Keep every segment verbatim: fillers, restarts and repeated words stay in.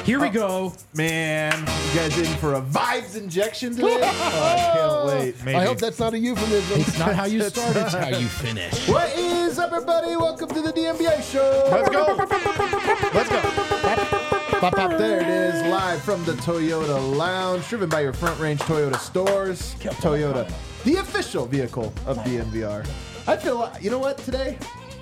Here we go. Man, you guys in for a vibes injection today? Oh, I can't wait. Maybe. I hope that's not a euphemism. It's not how you start, it's how you finish. What is up, everybody? Welcome to the D M B A show. Let's go. Let's go. Pop, pop. There it is, live from the Toyota Lounge, driven by your Front Range Toyota stores. Toyota, the official vehicle of D N V R. I feel, you know what, today?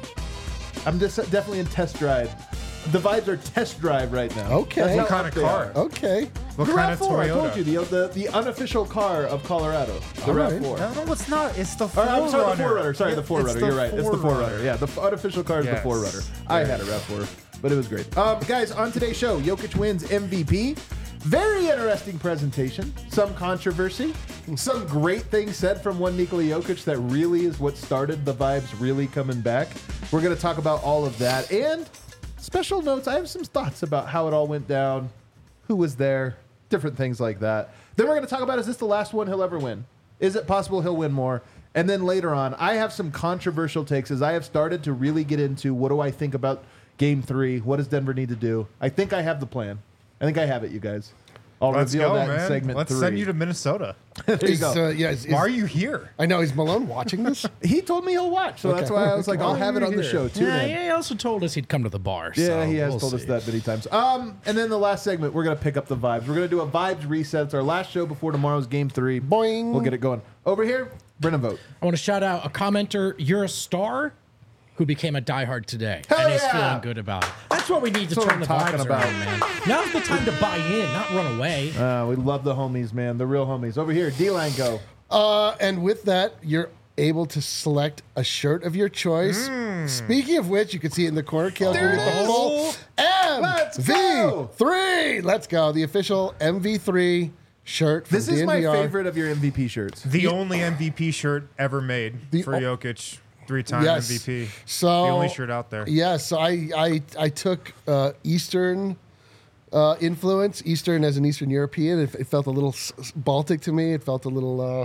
I'm just definitely in test drive. The vibes are test drive right now. Okay. That's What how kind up of they car? are. Okay. What The kind RAV of four, I told Toyota? you, the, the, the unofficial car of Colorado. The All RAV right. four. No, no, it's not. It's the Or, Forerunner. I'm sorry, the Forerunner. Sorry, the It's Forerunner. You're right. It's the Forerunner. Forerunner. Yeah, the unofficial car is the Yes. Forerunner. I had a RAV four, but it was great. Um, guys, on today's show, Jokic wins M V P. Very interesting presentation. Some controversy. Some great things said from one Nikola Jokic that really is what started the vibes really coming back. We're going to talk about all of that. And special notes, I have some thoughts about how it all went down, who was there, different things like that. Then we're going to talk about, is this the last one he'll ever win? Is it possible he'll win more? And then later on, I have some controversial takes as I have started to really get into what do I think about game three? What does Denver need to do? I think I have the plan. I think I have it, you guys. I'll Let's reveal go, that in man. segment Let's three. send you to Minnesota. there you Is, go. uh, yeah, is, is, Why are you here? I know. Is Malone watching this? He told me he'll watch, so that's Okay. why I was like, I'll have it on the show. Tune Yeah, in. he also told us he'd come to the bar. Yeah, so he has we'll told us see. that many times. Um, and then the last segment, we're gonna pick up the vibes. We're gonna do a vibes reset. It's our last show before tomorrow's game three. Boing. We'll get it going. Over here, Brennan Vogt. I want to shout out a commenter, You're a Star, who became a diehard today. Hell and he's yeah. feeling good about it. That's what we need to That's what turn I'm the talking vibes about. around, man. Now's the time to buy in, not run away. Uh, we love the homies, man. The real homies. Over here, D-Line go. Uh, and with that, you're able to select a shirt of your choice. Speaking of which, you can see it in the corner. Kale, give it the whole Let's M V go. three. Let's go. The official M V three shirt. From This is my D N V R. favorite of your M V P shirts. The only M V P shirt ever made The for o- Jokic. Three-time Yes. M V P. So the only shirt out there. Yeah, so I I, I took uh, Eastern uh, influence, Eastern as an Eastern European. It, it felt a little s- s- Baltic to me. It felt a little uh,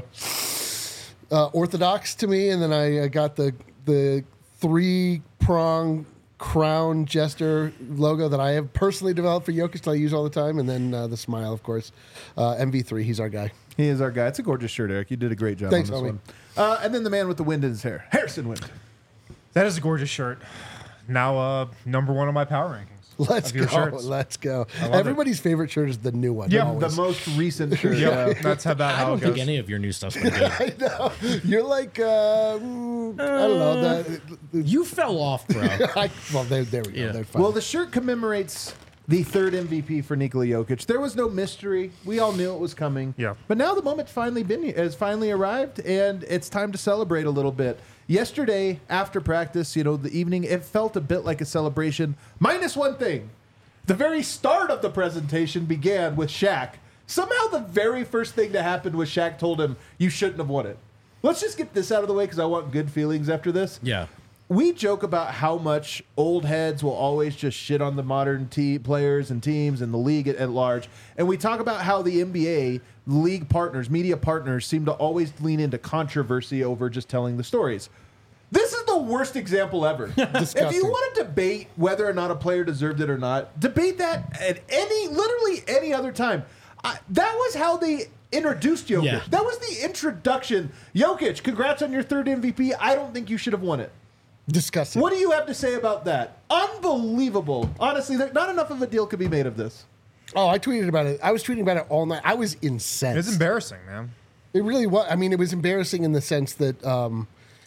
uh, Orthodox to me. And then I uh, got the the three prong crown jester logo that I have personally developed for Jokic that I use all the time. And then uh, the smile, of course. Uh, M V three, he's our guy. He is our guy. It's a gorgeous shirt, Eric. You did a great job Thanks, on this homie. one. Uh, and then the man with the wind in his hair, Harrison Wind. That is a gorgeous shirt. Now, uh, number one on my power rankings. Let's of your go. shirts. Let's go. love Everybody's favorite shirt is the new one. Yeah, The always. most recent shirt. Yeah, yeah. that's about I how don't it think goes. any of your new stuff's been good. I know. You're like, uh, mm, I don't know. The, You fell off, bro. I, well, there, there we go. Yeah. They're fine. Well, the shirt commemorates the third M V P for Nikola Jokic. There was no mystery. We all knew it was coming. Yeah. But now the moment finally been has finally arrived, and it's time to celebrate a little bit. Yesterday, after practice, you know, the evening, it felt a bit like a celebration. Minus one thing. The very start of the presentation began with Shaq. Somehow the very first thing that happened was Shaq told him, you shouldn't have won it. Let's just get this out of the way because I want good feelings after this. Yeah. We joke about how much old heads will always just shit on the modern te- players and teams and the league at, at large. And we talk about how the N B A league partners, media partners, seem to always lean into controversy over just telling the stories. This is the worst example ever. If you want to debate whether or not a player deserved it or not, debate that at any, literally any other time. I, that was how they introduced Jokic. Yeah. That was the introduction. Jokic, congrats on your third M V P. I don't think you should have won it. Disgusting. What do you have to say about that? Unbelievable. Honestly, there, not enough of a deal could be made of this. Oh, I tweeted about it. I was tweeting about it all night. I was incensed. It's embarrassing, man. It really was. I mean, it was embarrassing in the sense that um,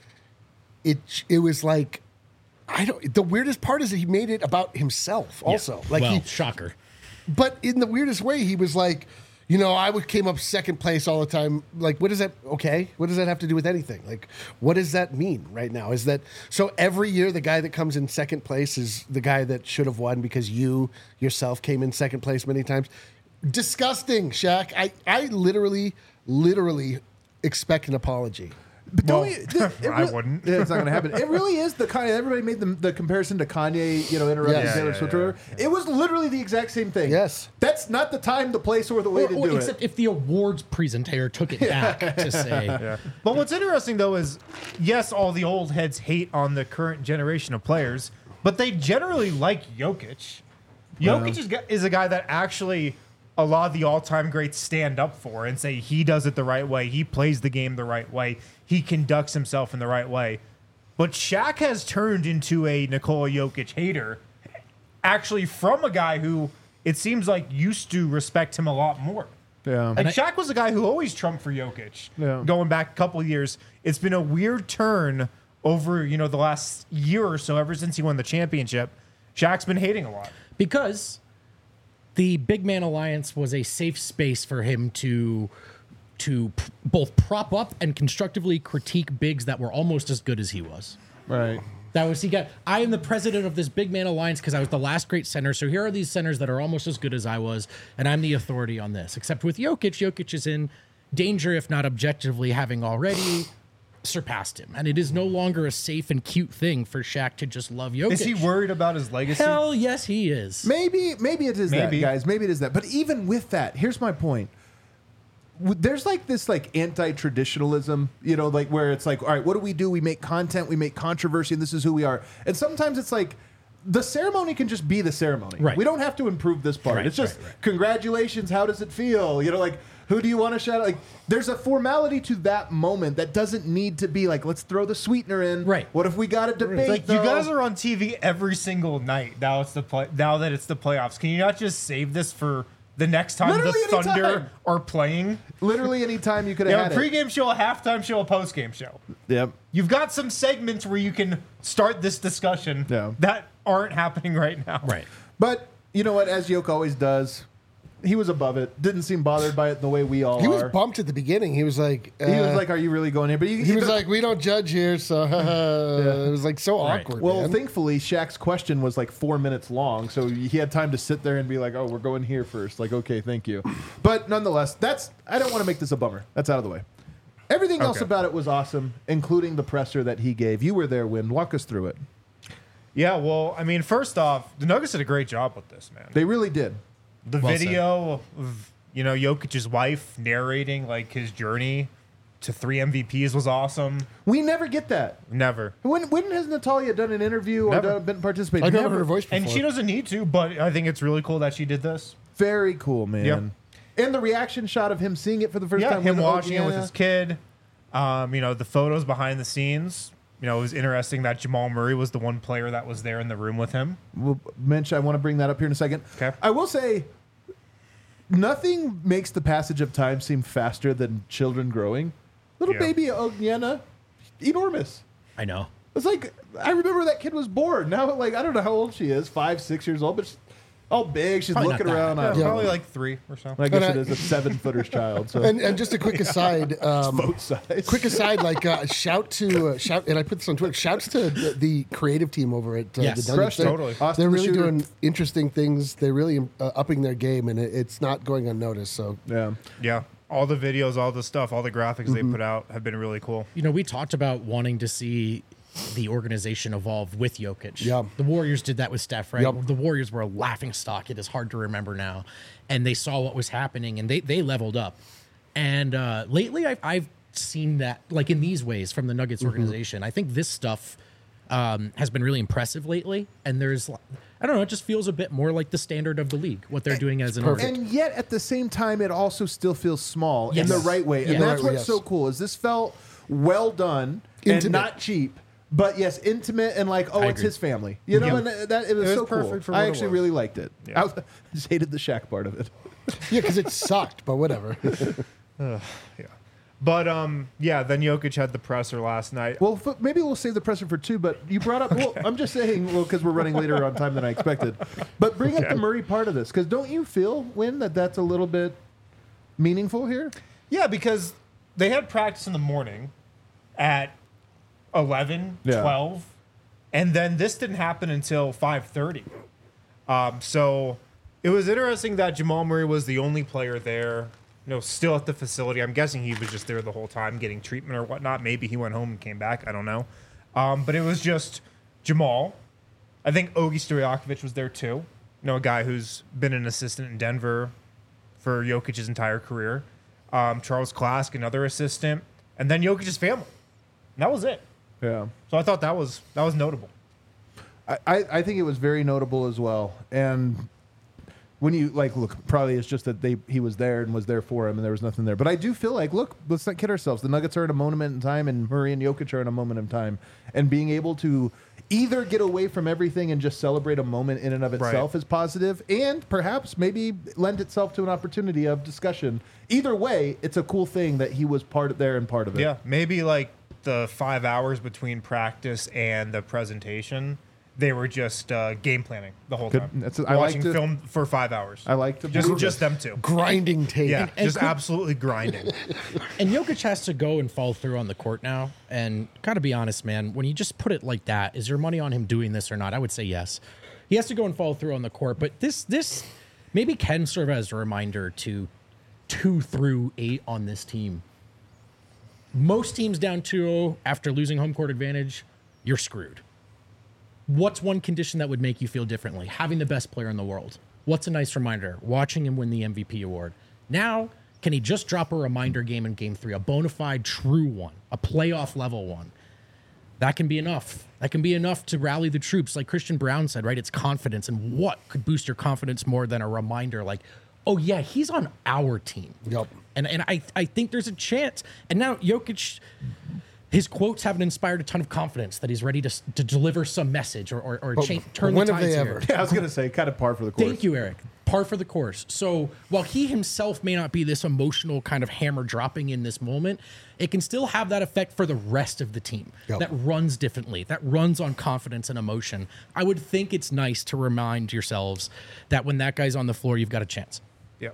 it it was like I don't. The weirdest part is that he made it about himself. Also, like well, he, shocker. but in the weirdest way, he was like, you know, I would came up second place all the time. Like, what does that? Okay, what does that have to do with anything? Like, what does that mean right now? Is that so? Every year, the guy that comes in second place is the guy that should have won because you yourself came in second place many times. Disgusting, Shaq. I I literally, literally expect an apology. But don't Well, you, th- it I re- wouldn't. Yeah, it's not going to happen. It really is the Kanye. Everybody made the, the comparison to Kanye, you know, interrupting Yes. Taylor Yeah, Swift. yeah, or whatever. It was literally the exact same thing. Yes. That's not the time, the place, or the way Or, to or do except it. if the awards presenter took it back to say, Yeah. But what's interesting though is, yes, all the old heads hate on the current generation of players, but they generally like Jokic. Jokic is, is a guy that actually a lot of the all-time greats stand up for and say he does it the right way. He plays the game the right way. He conducts himself in the right way. But Shaq has turned into a Nikola Jokic hater, actually from a guy who it seems like used to respect him a lot more. Yeah. Like Shaq was a guy who always trumped for Jokic. Yeah. Going back a couple of years, it's been a weird turn over, you know, the last year or so, ever since he won the championship. Shaq's been hating a lot. Because the Big Man Alliance was a safe space for him to to p- both prop up and constructively critique bigs that were almost as good as he was. Right. That was he got. I am the president of this Big Man Alliance because I was the last great center. So here are these centers that are almost as good as I was, and I'm the authority on this. Except with Jokic, Jokic is in danger, if not objectively having already surpassed him, and it is no longer a safe and cute thing for Shaq to just love Jokic. Is he worried about his legacy? Hell yes, he is. Maybe, maybe it is Maybe. that, guys. Maybe it is that. But even with that, here's my point. W- There's like this like anti-traditionalism, you know, like where it's like, all right, what do we do? We make content, we make controversy, and this is who we are. And sometimes it's like the ceremony can just be the ceremony. Right. We don't have to improve this part. Right, it's just right, right. congratulations. How does it feel? You know, like who do you want to shout out? Like there's a formality to that moment that doesn't need to be like, let's throw the sweetener in. Right. What if we got a debate? Like you though? guys are on T V every single night. Now it's the play. Now that it's the playoffs, can you not just save this for the next time Literally the Thunder anytime. are playing? Literally any time you could You have have a had it. pregame show, a halftime show, a postgame show. Yep. You've got some segments where you can start this discussion Yeah. that aren't happening right now. Right. But you know what? As Yoke always does, he was above it. Didn't seem bothered by it the way we all He was are. bumped at the beginning. He was like, uh, He was like, "Are you really going here?" But he, he was like, we don't judge here, so it was like so Right. awkward. "Well, man. thankfully, Shaq's question was like four minutes long, so he had time to sit there and be like, "Oh, we're going here first. Like, okay, thank you." But nonetheless, that's I don't want to make this a bummer. That's out of the way. Everything else Okay. about it was awesome, including the presser that he gave. You were there, Win. Walk us through it. Yeah. Well, I mean, first off, the Nuggets did a great job with this, man. They really did. The Well video of, you know, Jokic's wife narrating like his journey to three M V Ps was awesome. We never get that. Never. When when has Natalia done an interview or Never. done, been participating? I've never heard her voice before. And she doesn't need to, but I think it's really cool that she did this. Very cool, man. Yep. And the reaction shot of him seeing it for the first Yeah, time. him with- watching it with yeah. his kid. Um, you know, the photos behind the scenes. You know, it was interesting that Jamal Murray was the one player that was there in the room with him. We'll mention, I want to bring that up here in a second. Okay. I will say, nothing makes the passage of time seem faster than children growing. Little Yeah. baby Ogniana, enormous. I know. It's like, I remember that kid was born. Now, like, I don't know how old she is, five, six years old, but she's all big. She's Probably looking not that. around. I, don't Yeah. know. Probably like three or so. I guess And it I- is a seven footer's child. So and, and just a quick aside, um, both sides. quick aside, like uh, shout to uh, shout, and I put this on Twitter. Shouts to the, the creative team over at uh, Yes. the Crushed Nuggets. it. They're, Totally. Austin they're the really Shooter. doing interesting things. They're really uh, upping their game, and it, it's not going unnoticed. So Yeah. Yeah. All the videos, all the stuff, all the graphics they put out have been really cool. You know, we talked about wanting to see the organization evolve with Jokic. Yeah. The Warriors did that with Steph, right? Yep. The Warriors were a laughing stock. It is hard to remember now. And they saw what was happening and they, they leveled up. And uh, lately I've, I've seen that, like in these ways, from the Nuggets organization. I think this stuff um, has been really impressive lately. And there's, I don't know, it just feels a bit more like the standard of the league, what they're doing as an organization. And yet, at the same time, it also still feels small Yes. in the right way. And Yeah. that's Right way, what's yes. so cool is this felt well done and Intimate. not cheap. But yes, intimate and like, oh, I it's agree. his family. You know, Yeah. and that, that- it was It was so cool. perfect for I what it actually was. really liked it. Yeah. I, was, I just hated the Shaq part of it. yeah, because it sucked, but whatever. Yeah. But um, yeah, then Jokic had the presser last night. Well, f- maybe we'll save the presser for two. But you brought up. Well, I'm just saying. Well, because we're running later on time than I expected. But bring up the Murray part of this, because don't you feel, Win, that that's a little bit meaningful here? Yeah, because they had practice in the morning at eleven, Yeah. twelve, and then this didn't happen until five thirty. Um, so it was interesting that Jamal Murray was the only player there, you know, still at the facility. I'm guessing he was just there the whole time getting treatment or whatnot. Maybe he went home and came back. I don't know. Um, but it was just Jamal. I think Ogi Stojakovic was there too. You know, a guy who's been an assistant in Denver for Jokic's entire career. Um, Charles Klask, another assistant, and then Jokic's family. And that was it. Yeah. So I thought that was that was notable. I, I I think it was very notable as well. And When you like look, probably it's just that they he was there and was there for him, and there was nothing there. But I do feel like, look, let's not kid ourselves. The Nuggets are in a moment in time, and Murray and Jokic are in a moment in time, and being able to either get away from everything and just celebrate a moment in and of itself Right. is positive, and perhaps maybe lend itself to an opportunity of discussion. Either way, it's a cool thing that he was part of there and part of it. Yeah, maybe like the five hours between practice and the presentation, they were just uh, game planning the whole Good. time. That's- I like Watching to- film for five hours. I like to just believe just it. them two. Grinding tape. Yeah, and just could- absolutely grinding. And Jokic has to go and fall through on the court now. And gotta be honest, man, when you just put it like that, is your money on him doing this or not? I would say yes. He has to go and fall through on the court. But this this maybe can serve as a reminder to two through eight on this team. Most teams down two oh after losing home court advantage, you're screwed. What's one condition that would make you feel differently? Having the best player in the world. What's a nice reminder? Watching him win the M V P award. Now, can he just drop a reminder game in game three? A bona fide true one, a playoff level one. That can be enough. That can be enough to rally the troops. Like Christian Brown said, right? It's confidence. And what could boost your confidence more than a reminder like, oh yeah, he's on our team. Yep. And and I, I think there's a chance. And now Jokic, his quotes haven't inspired a ton of confidence that he's ready to, to deliver some message or, or, or But change, turn when the have tides they here. ever? Yeah, I was gonna say kind of par for the course. Thank you, Eric. Par for the course. So while he himself may not be this emotional kind of hammer dropping in this moment, it can still have that effect for the rest of the team Yep. that runs differently, that runs on confidence and emotion. I would think it's nice to remind yourselves that when that guy's on the floor, you've got a chance. Yeah.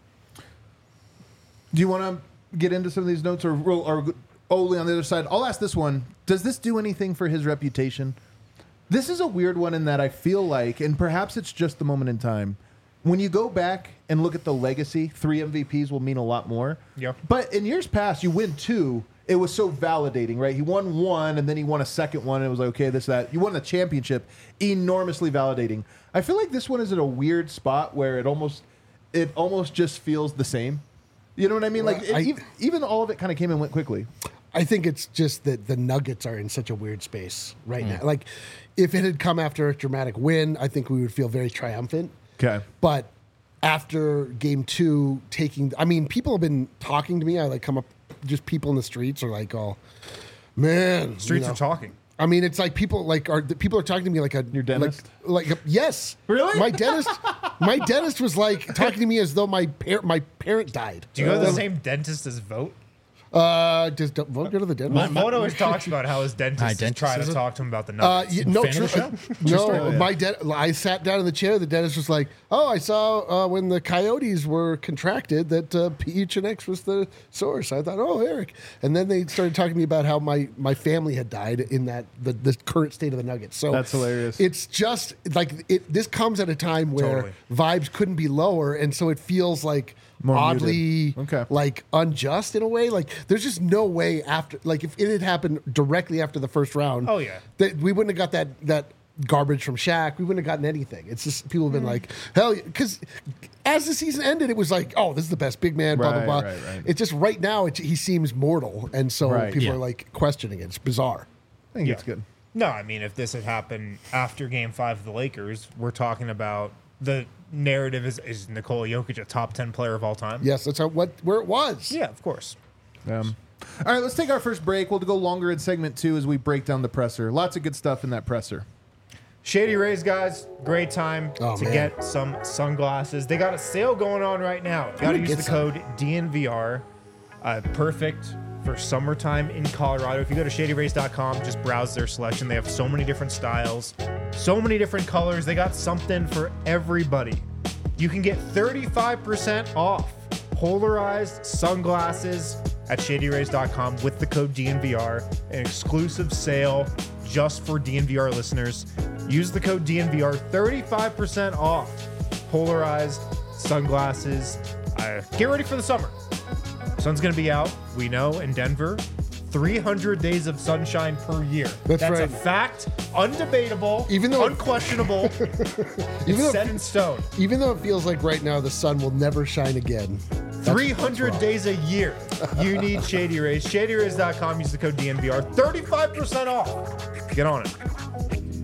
Do you want to get into some of these notes, or or Ole on the other side? I'll ask this one: does this do anything for his reputation? This is a weird one in that I feel like, and perhaps it's just the moment in time, when you go back and look at the legacy, three M V Ps will mean a lot more. Yeah. But in years past, you win two, it was so validating, right? He won one, and then he won a second one, and it was like, okay, this, that. You won the championship, enormously validating. I feel like this one is at a weird spot where it almost, it almost just feels the same. You know what I mean? Like, I- it, even, even all of it kind of came and went quickly. I think it's just that the Nuggets are in such a weird space right now. Like, if it had come after a dramatic win, I think we would feel very triumphant. Okay. But after game two, taking, I mean, people have been talking to me. I like come up, just people in the streets are like, oh, man. Streets you know. are talking. I mean, it's like people like are the people are talking to me like a Your dentist? like, like a, yes, Really? My dentist, my dentist was like talking to me as though my par- my parent died. Do you go to the same dentist as Vote? Uh, just don't, won't go to the dentist. Vote always talks about how his dentist My is dentist trying is to a- talk to him about the Uh, Nuggets. y- no, Fan of the true, show? no. story. My de- I sat down in the chair. The dentist was like, "Oh, I saw uh, when the Coyotes were contracted that uh, P H N X was the source." I thought, "Oh, Eric," and then they started talking to me about how my, my family had died in that the, the current state of the Nuggets. So That's hilarious. It's just like it. This comes at a time where Totally. vibes couldn't be lower, and so it feels like More oddly muted. Okay. like unjust in a way. Like there's just no way after like if it had happened directly after the first round. Oh, yeah. that we wouldn't have got that that garbage from Shaq. We wouldn't have gotten anything. It's just people have been like, hell, because as the season ended, it was like, oh, this is the best big man. Blah Right, blah blah. right, right. It's just right now, it, he seems mortal, and so Right. people Yeah. are like questioning it. It's bizarre. I think Yeah. it's good. No, I mean, if this had happened after Game Five of the Lakers, we're talking about the narrative is is Nikola Jokic a top ten player of all time? Yes, that's how what where it was. Yeah, of course. Um, all right, let's take our first break. We'll go longer in segment two as we break down the presser. Lots of good stuff in that presser. Shady Rays, guys, great time Oh, to man. get some sunglasses. They got a sale going on right now. Got to gonna use get the some. code D N V R. Uh, perfect for summertime in Colorado. If you go to shady rays dot com, just browse their selection. They have so many different styles, so many different colors. They got something for everybody. You can get thirty-five percent off polarized sunglasses at shady rays dot com with the code D N V R, an exclusive sale just for D N V R listeners. Use the code D N V R, thirty-five percent off polarized sunglasses. Uh, get ready for the summer. Sun's going to be out, we know, in Denver. three hundred days of sunshine per year. That's a right. fact, undebatable, Even though- unquestionable. Even it's though, set in stone. even though it feels like right now the sun will never shine again. That's- three hundred that's wrong. days a year. You need Shady Rays. shady rays dot com. Use the code D N V R. thirty-five percent off. Get on it.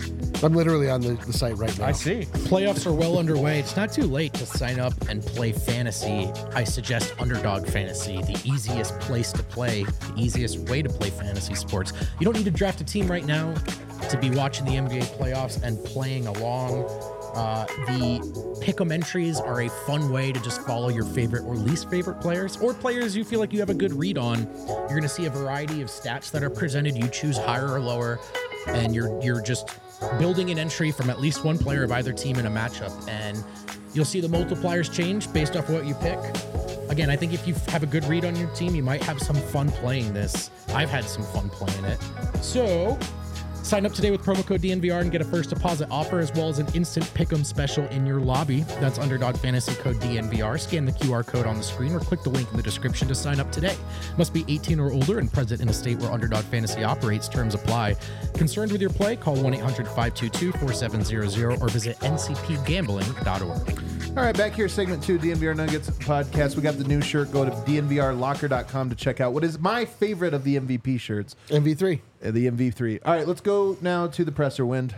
I'm literally on the, the site right now. I see. Playoffs are well underway. It's not too late to sign up and play fantasy. I suggest Underdog Fantasy, the easiest place to play, the easiest way to play fantasy sports. You don't need to draft a team right now to be watching the N B A playoffs and playing along. Uh, the pick'em entries are a fun way to just follow your favorite or least favorite players, or players you feel like you have a good read on. You're going to see a variety of stats that are presented. You choose higher or lower, and you're you're just building an entry from at least one player of either team in a matchup, and you'll see the multipliers change based off what you pick. Again, I think if you have a good read on your team, you might have some fun playing this. I've had some fun playing it. So sign up today with promo code D N V R and get a first deposit offer as well as an instant pick'em special in your lobby. That's Underdog Fantasy code D N V R. Scan the Q R code on the screen or click the link in the description to sign up today. Must be eighteen or older and present in a state where Underdog Fantasy operates. Terms apply. Concerned with your play? Call one eight hundred five two two four seven zero zero or visit N C P gambling dot org. All right, back here, segment two, D N V R Nuggets podcast. We got the new shirt. Go to D N V R locker dot com to check out what is my favorite of the M V P shirts. M V three. Uh, the M V three. All right, let's go now to the presser. Wind.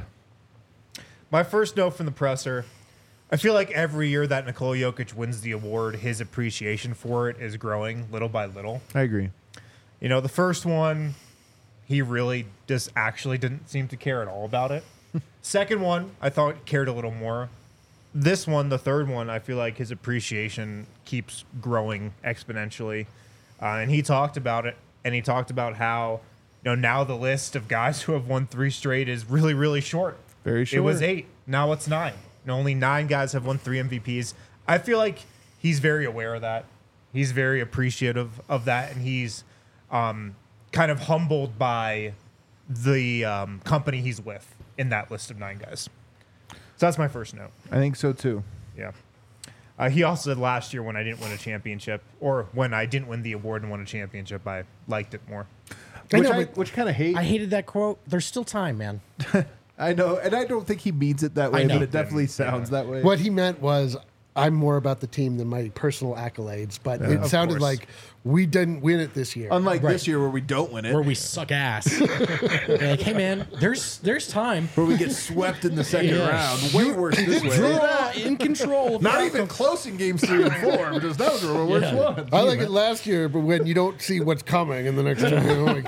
My first note from the presser, I feel like every year that Nikola Jokic wins the award, his appreciation for it is growing little by little. I agree. You know, the first one, he really just actually didn't seem to care at all about it. Second one, I thought he cared a little more. This one, the third one, I feel like his appreciation keeps growing exponentially. Uh, and he talked about it, and he talked about how, you know, now the list of guys who have won three straight is really, really short. Very short. It was eight. Now it's nine. And only nine guys have won three M V Ps. I feel like he's very aware of that. He's very appreciative of that, and he's um, kind of humbled by the um, company he's with in that list of nine guys. So that's my first note. I think so, too. Yeah. Uh, he also said last year when I didn't win a championship, or when I didn't win the award and won a championship, I liked it more. I Which know, I, but- which kind of hate. I hated that quote. There's still time, man. I know, and I don't think he means it that way, I know. but it definitely sounds that way. What he meant was, I'm more about the team than my personal accolades. But it Of sounded course. like we didn't win it this year. Unlike Right. this year where we don't win it, Where we suck ass. They're like, hey, man, there's there's time. where we get swept in the second Yeah. round. Way worse this way. Draw in control. of the Not outcome. even close in games three and four, because those were the worst Yeah. ones. I like it last year, but when you don't see what's coming in the next two, oh my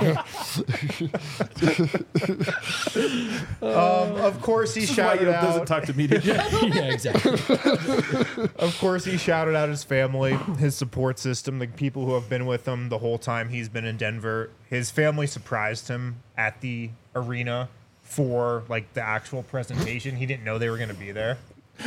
god! Um, of course, he This is why shouted you doesn't out. talk to media. Yeah, exactly. Of course, he shouted out his family, his support system, the people who have been with him the whole time he's been in Denver. His family surprised him at the arena for like the actual presentation. He didn't know they were going to be there.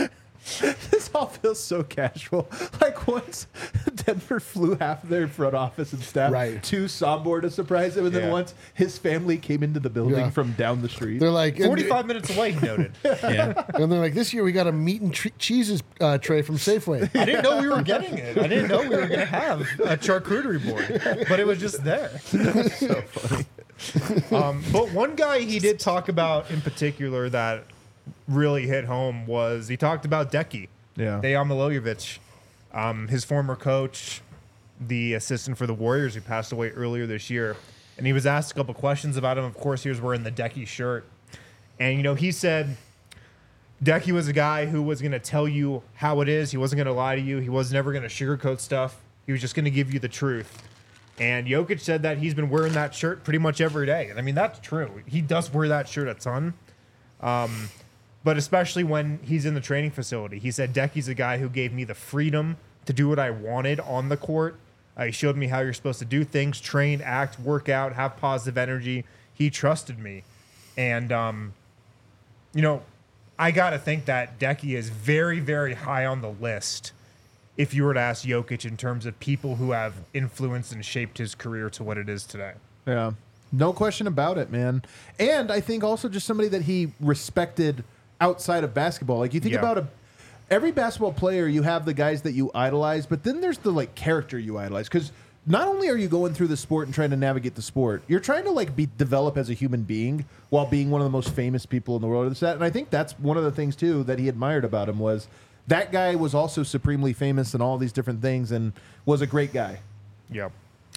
This all feels so casual. Like once Denver flew half of their front office and staff Right. to Sombor to surprise him, and then Yeah. once his family came into the building Yeah. from down the street. They're like, and, forty-five minutes away, he noted. Yeah. and they're like, this year we got a meat and tre- cheeses uh, tray from Safeway. I didn't know we were getting it. I didn't know we were going to have a charcuterie board, but it was just there. so funny. Um, but one guy he did talk about in particular that really hit home was he talked about Decky. Yeah. Dejan Milojevic, um, his former coach, the assistant for the Warriors who passed away earlier this year. And he was asked a couple questions about him. Of course, he was wearing the Decky shirt. And, you know, he said Decky was a guy who was going to tell you how it is. He wasn't going to lie to you. He was never going to sugarcoat stuff. He was just going to give you the truth. And Jokic said that he's been wearing that shirt pretty much every day. And I mean, that's true. He does wear that shirt a ton. Um, but especially when he's in the training facility. He said, Decky's a guy who gave me the freedom to do what I wanted on the court. Uh, he showed me how you're supposed to do things, train, act, work out, have positive energy. He trusted me. And, um, you know, I got to think that Decky is very, very high on the list if you were to ask Jokic in terms of people who have influenced and shaped his career to what it is today. Yeah. No question about it, man. And I think also just somebody that he respected outside of basketball. Like you think Yeah. about a every basketball player, you have the guys that you idolize, but then there's the like character you idolize. Because not only are you going through the sport and trying to navigate the sport, you're trying to like be develop as a human being while being one of the most famous people in the world. And I think that's one of the things too that he admired about him was that guy was also supremely famous and all these different things and was a great guy. Yep.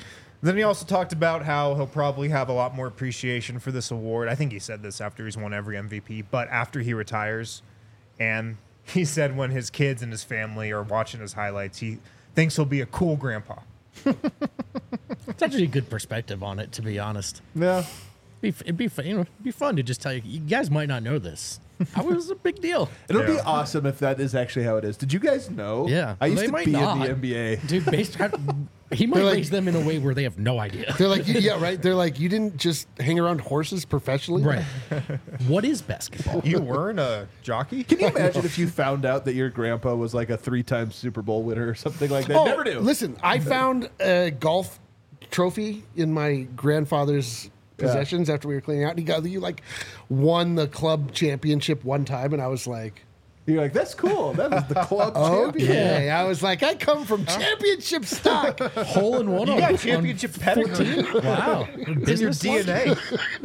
Then he also talked about how he'll probably have a lot more appreciation for this award. I think he said this after he's won every M V P, but after he retires. And he said when his kids and his family are watching his highlights, he thinks he'll be a cool grandpa. It's actually a good perspective on it, to be honest. Yeah. It'd be, it'd be, fun, you know, it'd be fun to just tell you. You guys might not know this. I was a big deal. It'll be Yeah. awesome if that is actually how it is. Did you guys know? Yeah. I used They to might be not. in the N B A. Dude, based he might They're like- raise them in a way where they have no idea. They're like, yeah, right. They're like, you didn't just hang around horses professionally, Right. What is basketball? You weren't a jockey? Can you imagine if you found out that your grandpa was like a three-time Super Bowl winner or something like that? Oh, Never knew. Listen, I found a golf trophy in my grandfather's possessions after we were cleaning out. And he got you like won the club championship one time, and I was like, You're like, that's cool. That was the club champion. okay. I was like, I come from championship stock. Hole in one You on got on championship pedigree. Wow. It's in your Business D N A.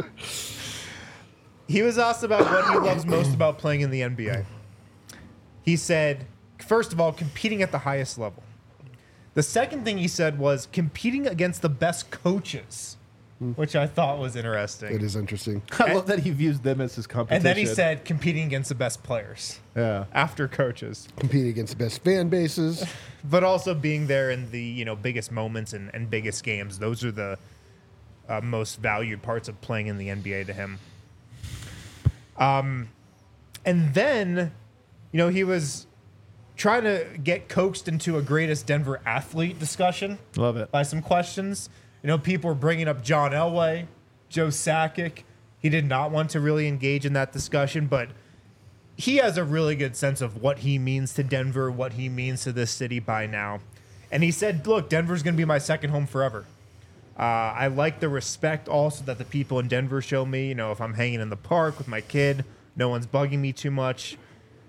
He was asked about what he loves most about playing in the N B A. He said, first of all, competing at the highest level. The second thing he said was competing against the best coaches, which I thought was interesting. It is interesting. I love that he views them as his competition. And then he said competing against the best players yeah. after coaches, Competing against the best fan bases. but also being there in the you know biggest moments and, and biggest games. Those are the uh, most valued parts of playing in the N B A to him. Um, and then, you know, he was trying to get coaxed into a greatest Denver athlete discussion. Love it. By some questions. You know, people were bringing up John Elway, Joe Sakic. He did not want to really engage in that discussion, but he has a really good sense of what he means to Denver, what he means to this city by now. And he said, look, Denver's going to be my second home forever. Uh, I like the respect also that the people in Denver show me. You know, if I'm hanging in the park with my kid, no one's bugging me too much.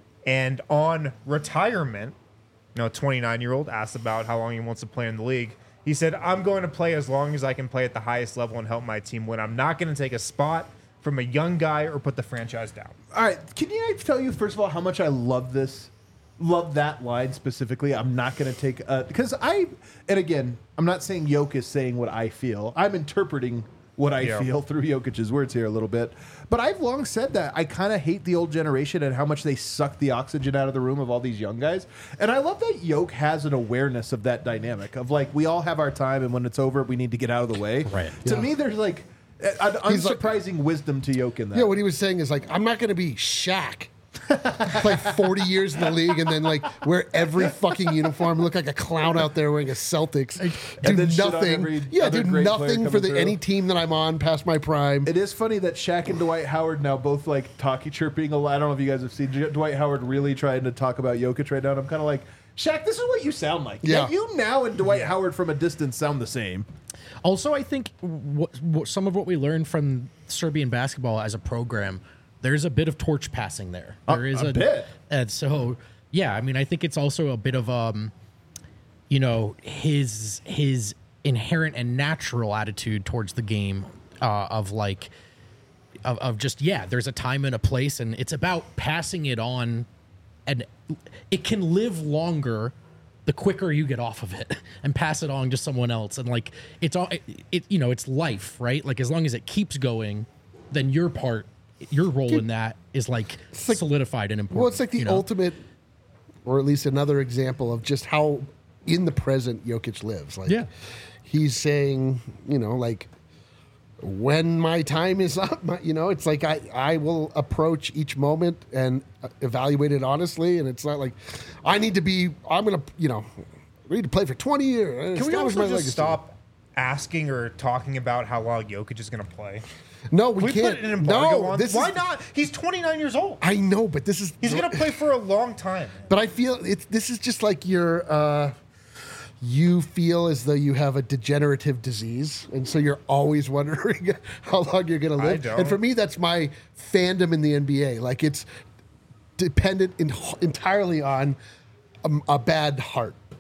And on retirement, you know, a twenty-nine-year-old asked about how long he wants to play in the league. He said, I'm going to play as long as I can play at the highest level and help my team win. I'm not going to take a spot from a young guy or put the franchise down. All right. Can you tell you, first of all, how much I love this? Love that line specifically. I'm not going to take a... Because I... And again, I'm not saying Jokic is saying what I feel. I'm interpreting what I Yeah. feel through Jokic's words here a little bit. But I've long said that I kind of hate the old generation and how much they suck the oxygen out of the room of all these young guys. And I love that Jokic has an awareness of that dynamic of like, we all have our time and when it's over, we need to get out of the way. Right. To Yeah. me, there's like an He's like- unsurprising wisdom to Jokic in that. Yeah, what he was saying is like, I'm not going to be Shaq. Play forty years in the league and then like wear every fucking uniform, look like a clown out there wearing a Celtics. Do And then shit on nothing. every Yeah, other do great player nothing for coming the through. any team that I'm on past my prime. It is funny that Shaq and Dwight Howard now both like talkie chirping a lot. I don't know if you guys have seen J- Dwight Howard really trying to talk about Jokic right now. And I'm kind of like, Shaq, this is what you sound like. Yeah. You now and Dwight Howard from a distance sound the same. Also, I think what, what some of what we learned from Serbian basketball as a program, there's a bit of torch passing there. There is a bit. and so yeah. I mean, I think it's also a bit of um, you know, his his inherent and natural attitude towards the game uh, of like of, of just yeah. There's a time and a place, and it's about passing it on, and it can live longer the quicker you get off of it and pass it on to someone else. And like, it's all, it, it, you know, it's life, right? Like as long as it keeps going, then your part, your role in that is like, like- solidified and important. Well, it's like the you know? ultimate, or at least another example of just how in the present Jokic lives. Like, Yeah. he's saying, you know, like, when my time is up, my, you know, it's like I, I will approach each moment and uh, evaluate it honestly. And it's not like I need to be, I'm going to, you know, I need to play for twenty years. Can we establish also my just legacy. stop asking or talking about how long Jokic is going to play? No, we, We can't. put an embargo no, on. this Why is, not? He's twenty-nine years old. I know, but this is, He's going to play for a long time. But I feel it's this is just like your uh, you feel as though you have a degenerative disease, and so you're always wondering how long you're going to I live. don't. And for me, that's my fandom in the N B A. Like it's dependent in, entirely on a, a bad heart.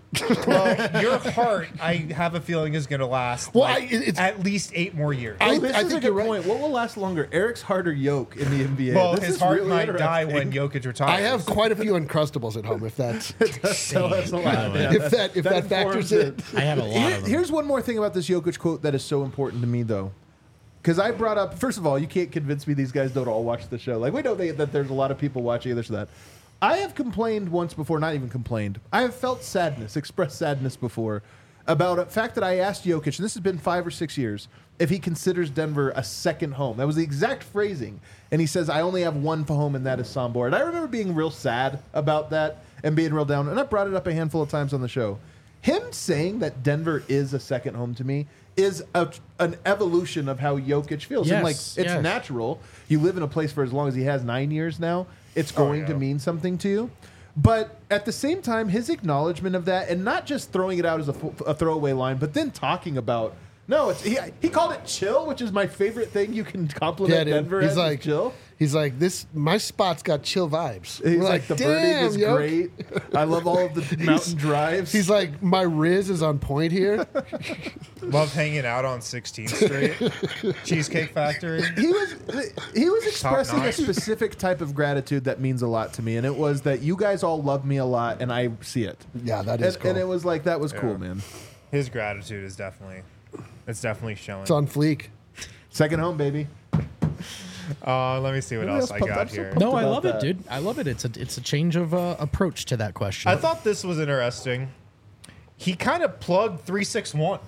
Well, your heart, I have a feeling, is going to last Well, like, I- it's- at least eight more years. I- Well, this I is think a good you're right. point. What will last longer, Eric's heart or Yoke in the N B A? well, This his is heart really might die when interesting. Jokic retires. I have quite a few Uncrustables at home. If that's Tell us a lot. Yeah, if that if that, factors informs in. I have a lot Here- of them. here's one more thing about this Jokic quote that is so important to me, though. Because I brought up, first of all, you can't convince me these guys don't all watch the show. Like, we know they, that there's a lot of people watching this or that. I have complained once before, not even complained. I have felt sadness, expressed sadness before, about a fact that I asked Jokic, and this has been five or six years, if he considers Denver a second home. That was the exact phrasing. And he says, I only have one home, and that is Sombor. And I remember being real sad about that and being real down. And I brought it up a handful of times on the show. Him saying that Denver is a second home to me is a, an evolution of how Jokic feels. And like, Yes, it's yes. natural. You live in a place for as long as he has, nine years now. It's going to yeah. mean something to you. But at the same time, his acknowledgement of that, and not just throwing it out as a, f- a throwaway line, but then talking about, no, it's he, he called it chill, which is my favorite thing you can compliment Yeah, dude. Denver He's as, is like chill. He's like this. My spot's got chill vibes. He's We're like, the birding "Damn, is Yoke." great. I love all of the mountain drives. He's like, my Riz is on point here. Love hanging out on sixteenth Street, Cheesecake Factory. he was he was expressing a notch. specific type of gratitude that means a lot to me, and it was that you guys all love me a lot, and I see it. Yeah, that is And, cool. and it was like that was Yeah. cool, man. His gratitude is definitely, it's definitely showing. It's on fleek. Second home, baby. Uh, let me see what Nobody else else I pumped got up, so here. pumped. No, I about love that. it, dude. I love it. It's a it's a change of uh, approach to that question. I thought this was interesting. He kind of plugged three six one.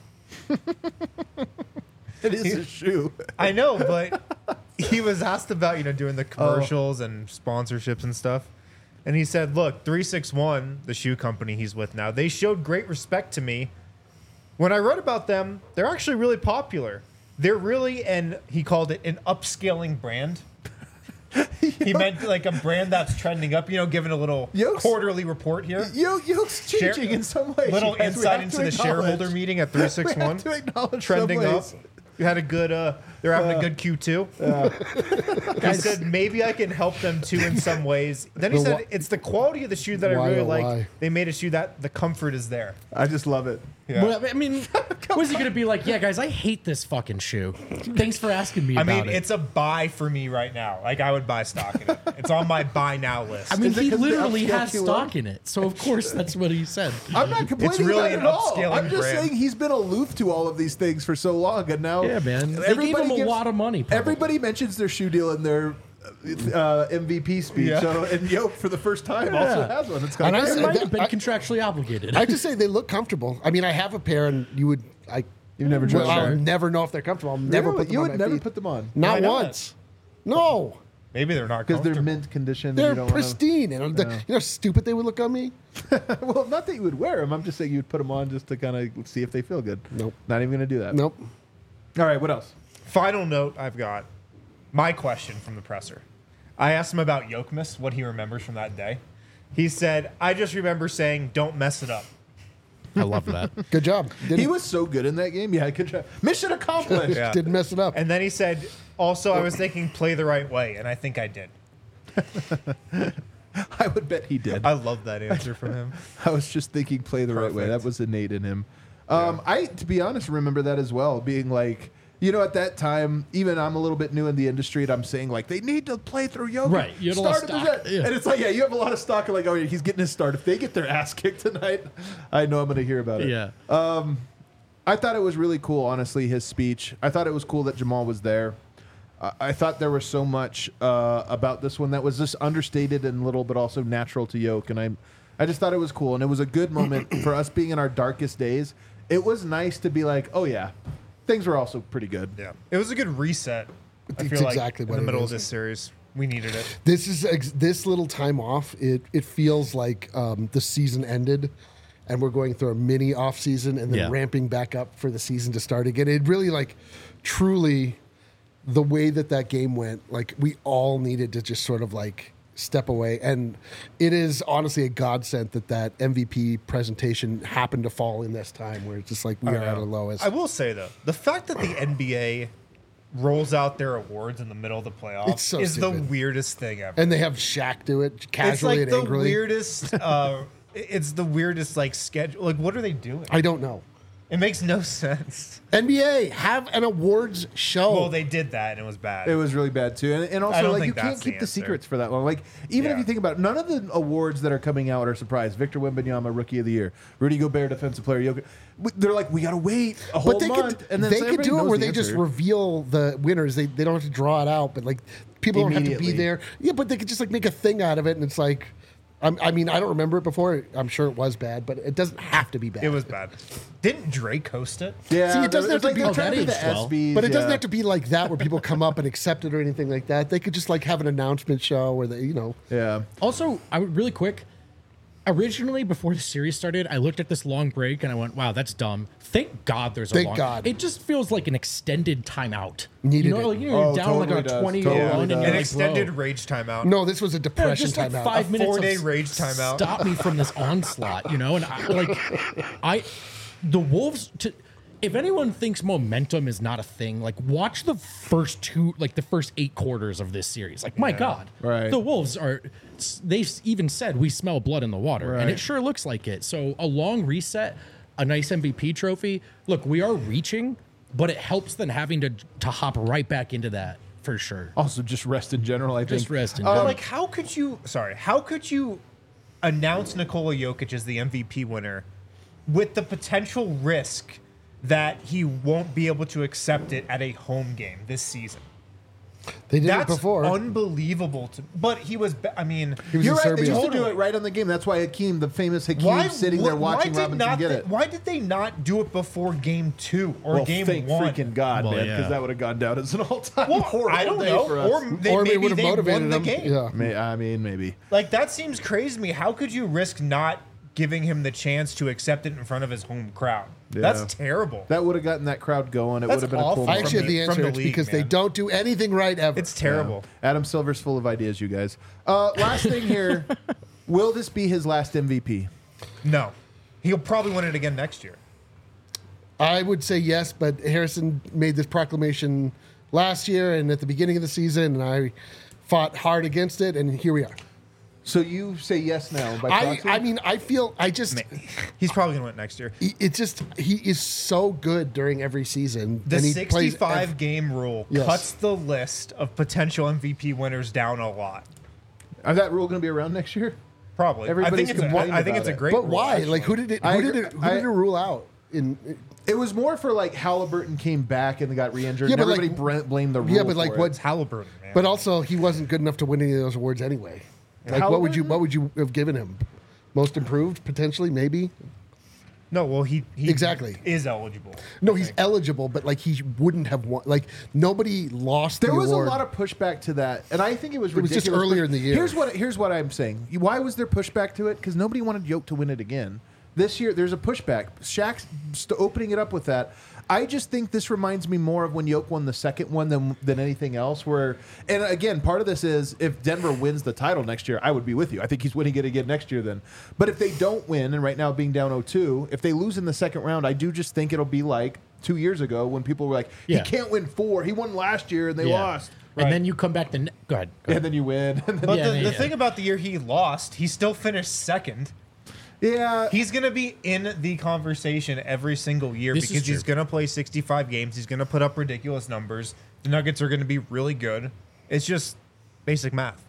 It is a shoe. I know, but he was asked about, you know, doing the commercials and sponsorships and stuff. And he said, look, three six one, the shoe company he's with now, they showed great respect to me. When I read about them, they're actually really popular. They're really, and he called it an upscaling brand. He meant like a brand that's trending up, you know, giving a little Yoke's- quarterly report here. Yo, Yoke's Share- changing in some ways. Little you guys. We insight have into to the acknowledge. shareholder meeting at three six one. We have to acknowledge Trending some up. ways. We had a good, uh, they're having a good Q two. He said, maybe I can help them too in some ways. Then he The said, why- it's the quality of the shoe that I Why, really oh, like. why? They made a shoe that the comfort is there. I just love it. Yeah. Well, I mean, was he gonna be like, yeah, guys, I hate this fucking shoe. Thanks for asking me I about mean, it. it's a buy for me right now. Like, I would buy stock in it. It's on my buy now list. I mean, Is it he 'cause the literally upscale has Q L? stock in it, so of course that's what he said. I'm not complaining really about it an at all. upscaling I'm just brand. saying he's been aloof to all of these things for so long, and now Yeah, man. They gave him a gives- lot of money. probably. Everybody mentions their shoe deal in their uh, M V P speech. Yeah. So, and Yoke for the first time also Yeah. has one. It's And kind I of It said- might have been I- contractually obligated. I just say they look comfortable. I mean, I have a pair, and you would. I You've never well, tried I'll them. never know if they're comfortable. I'll never Really? put them You on would my never feet. put them on Not Why not? once. No, Maybe they're not because they're comfortable. mint condition. and they're you don't wanna- pristine. And the- you know how stupid they would look on me? well, not that you would wear them. I'm just saying you would put them on just to kind of see if they feel good. Nope. Not even going to do that. Nope. All right. What else? Final note I've got. My question from the presser. I asked him about Yokemas, what he remembers from that day. He said, I just remember saying, don't mess it up. I love that. Good job. Didn't, He was so good in that game. Yeah, good job. Mission accomplished. Yeah. didn't mess it up. And then he said, also, I was thinking play the right way, and I think I did. I would bet he did. I love that answer from him. I was just thinking play the right way. Perfect. That was innate in him. Um, I, to be honest, remember that as well. Being like, you know, at that time, even I'm a little bit new in the industry, and I'm saying like they need to play through Jokic. Right, you had a lot of Start him stock, as- yeah. And it's like, yeah, you have a lot of stock. Like, oh, yeah, he's getting his start. If they get their ass kicked tonight, I know I'm going to hear about it. Yeah. I thought it was really cool, honestly, his speech. I thought it was cool that Jamal was there. I, I thought there was so much uh, about this one that was just understated and little, but also natural to Yoke. And I, I just thought it was cool. And it was a good moment for us being in our darkest days. It was nice to be like, oh, yeah, things were also pretty good. Yeah. It was a good reset. I It's feel like exactly in what the it middle is. of this series. We needed it. This is ex- this little time off. It it feels like um, the season ended, and we're going through a mini off season, and then Yeah. ramping back up for the season to start again. It really like, truly, the way that that game went. Like we all needed to just sort of like step away, and it is honestly a godsend that that M V P presentation happened to fall in this time where it's just like we I are at know. our lowest. I will say, though, the fact that the N B A rolls out their awards in the middle of the playoffs It's so is the stupid. weirdest thing ever. and they have Shaq do it It's casually like and the angrily. weirdest uh, it's the weirdest like schedule. Like, what are they doing? I don't know. It makes no sense. N B A, have an awards show. Well, they did that and it was bad. It was really bad too, and, and I also don't like you think can't that's the keep the, answer. secrets for that long. Like even if Yeah. you think about it, none of the awards that are coming out are surprise. Victor Wembanyama, Rookie of the Year, Rudy Gobert, Defensive Player. Jokic. They're like, we gotta wait a whole but they month, could, and then they so could everybody do it knows where the they just answer. reveal the winners. They, they don't have to draw it out, but like people don't have to be Immediately. there. Yeah, but they could just like make a thing out of it, and it's like, I'm, I mean, I don't remember it before. I'm sure it was bad, but it doesn't have to be bad. It was bad. Didn't Drake host it? Yeah, See, it doesn't they're- have to like be- they're Oh, trying that to do the aged well. ESPYs, But it doesn't yeah. have to be like that where people come up and accept it or anything like that. They could just like have an announcement show where they, you know, Yeah. Also, I would really quick. Originally, before the series started, I looked at this long break and I went, "Wow, that's dumb." Thank God there's a Thank long. God. It just feels like an extended timeout. Needed you know, it. like you know, you're Oh, down like totally a does. twenty Totally year run, and does. you're An like, extended bro, rage timeout. no, this was a yeah, depression just like timeout. five A minutes four-day of rage timeout. Stop me from this onslaught, you know. And I, like, I, the Wolves. To, if anyone thinks momentum is not a thing, like watch the first two, like the first eight quarters of this series. Like, my God, Right. the Wolves are. They've even said we smell blood in the water, and Right. it sure looks like it. So a long reset, a nice M V P trophy. Look, we are reaching, but it helps than having to to hop right back into that for sure. Also, just rest in general. I Just think. rest in But general. like, how could you? Sorry, how could you announce Nikola Jokic as the M V P winner with the potential risk that he won't be able to accept it at a home game this season? They did That's it before. unbelievable. To, but he was. be- I mean, He was You're in right. They Serbia. used to do Totally. it right on the game. That's why Hakeem, the famous Hakeem, why sitting there wh- watching why did Robinson not get they- it. Why did they not do it before game two or Well, game thank one? freaking God, Well, man, yeah. because that would have gone down as an all-time Well, horrible I don't day know. for us. Or, they, or they maybe would have they motivated won the them. game. Yeah. May, I mean, maybe. Like, that seems crazy to me. How could you risk not giving him the chance to accept it in front of his home crowd? Yeah. That's terrible. That would have gotten that crowd going. It That's would have been a cool awful. I moment. actually have the the- from answer. the It's league, because they man. don't do anything right ever. It's terrible. Adam Silver's full of ideas, you guys. Uh, last thing here. Will this be his last M V P? No. He'll probably win it again next year. I would say yes, but Harrison made this proclamation last year and at the beginning of the season, and I fought hard against it, and here we are. So you say yes now by I, proxy? I mean, I feel I just He's probably going to win it next year. he- it's just he is so good during every season. The and he plays sixty-five ev- game rule Yes. cuts the list of potential M V P winners down a lot. Is that rule going to be around next year? Probably. I Everybody's think it's a, complaining I think about it's a it. great But rule, why? actually. Like, who did it? Who I did agree- it? Who I- did it rule out? In It was more for like Halliburton came back and got re-injured. Yeah, and but, like- everybody bra- blamed the rule. yeah, but like for what? it. It's Halliburton, man. But also, he wasn't good enough to win any of those awards anyway. Like, what would you? Halliburton? What would you have given him? Most improved, potentially, maybe. no, well, he, he Exactly. is eligible. No, he's eligible, but like he wouldn't have won. Like nobody lost. There the was award. a lot of pushback to that, and I think it was It was ridiculous. just earlier but in the year. Here's what here's what I'm saying. Why was there pushback to it? Because nobody wanted Yoke to win it again. This year, there's a pushback. Shaq's st- opening it up with that. I just think this reminds me more of when Yoke won the second one than than anything else. Where, and again, part of this is if Denver wins the title next year, I would be with you. I think he's winning it again next year then. But if they don't win, and right now being down oh two, if they lose in the second round, I do just think it'll be like two years ago when people were like, Yeah. he can't win four. He won last year and they Yeah. lost. And Right. then you come back the ne- go ahead. Go And ahead. then you win. And then, But Yeah, the, yeah, the yeah. thing about the year he lost, he still finished second. yeah. He's going to be in the conversation every single year This is because he's true. going to play sixty-five games. He's going to put up ridiculous numbers. The Nuggets are going to be really good. It's just basic math.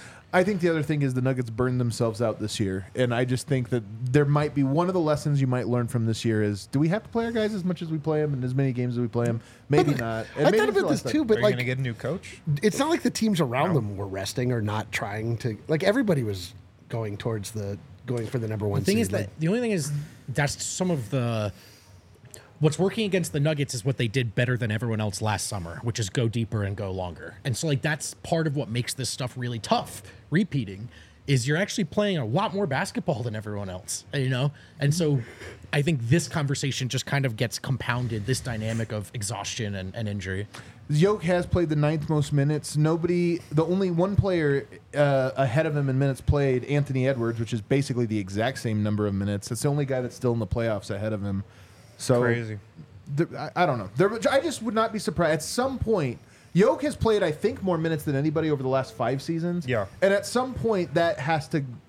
I think the other thing is the Nuggets burned themselves out this year. And I just think that there might be one of the lessons you might learn from this year is do we have to play our guys as much as we play them and as many games as we play them? Maybe not. And I maybe thought it's the about this last too, time. but are you like going to get a new coach? it's not like the teams around them were resting or not trying to. Like everybody was going towards the going for the number one. The thing seed. is Like, that the only thing is that's some of the what's working against the Nuggets is what they did better than everyone else last summer, which is go deeper and go longer. And so like that's part of what makes this stuff really tough. Repeating is you're actually playing a lot more basketball than everyone else, you know? And so I think this conversation just kind of gets compounded, this dynamic of exhaustion and, and injury. Yoke has played the ninth most minutes. Nobody, the only one player uh, ahead of him in minutes played, Anthony Edwards, which is basically the exact same number of minutes. It's the only guy that's still in the playoffs ahead of him. So Crazy. there- I, I don't know. There, I just would not be surprised. At some point, Yoke has played, I think, more minutes than anybody over the last five seasons. Yeah. And at some point, that has to.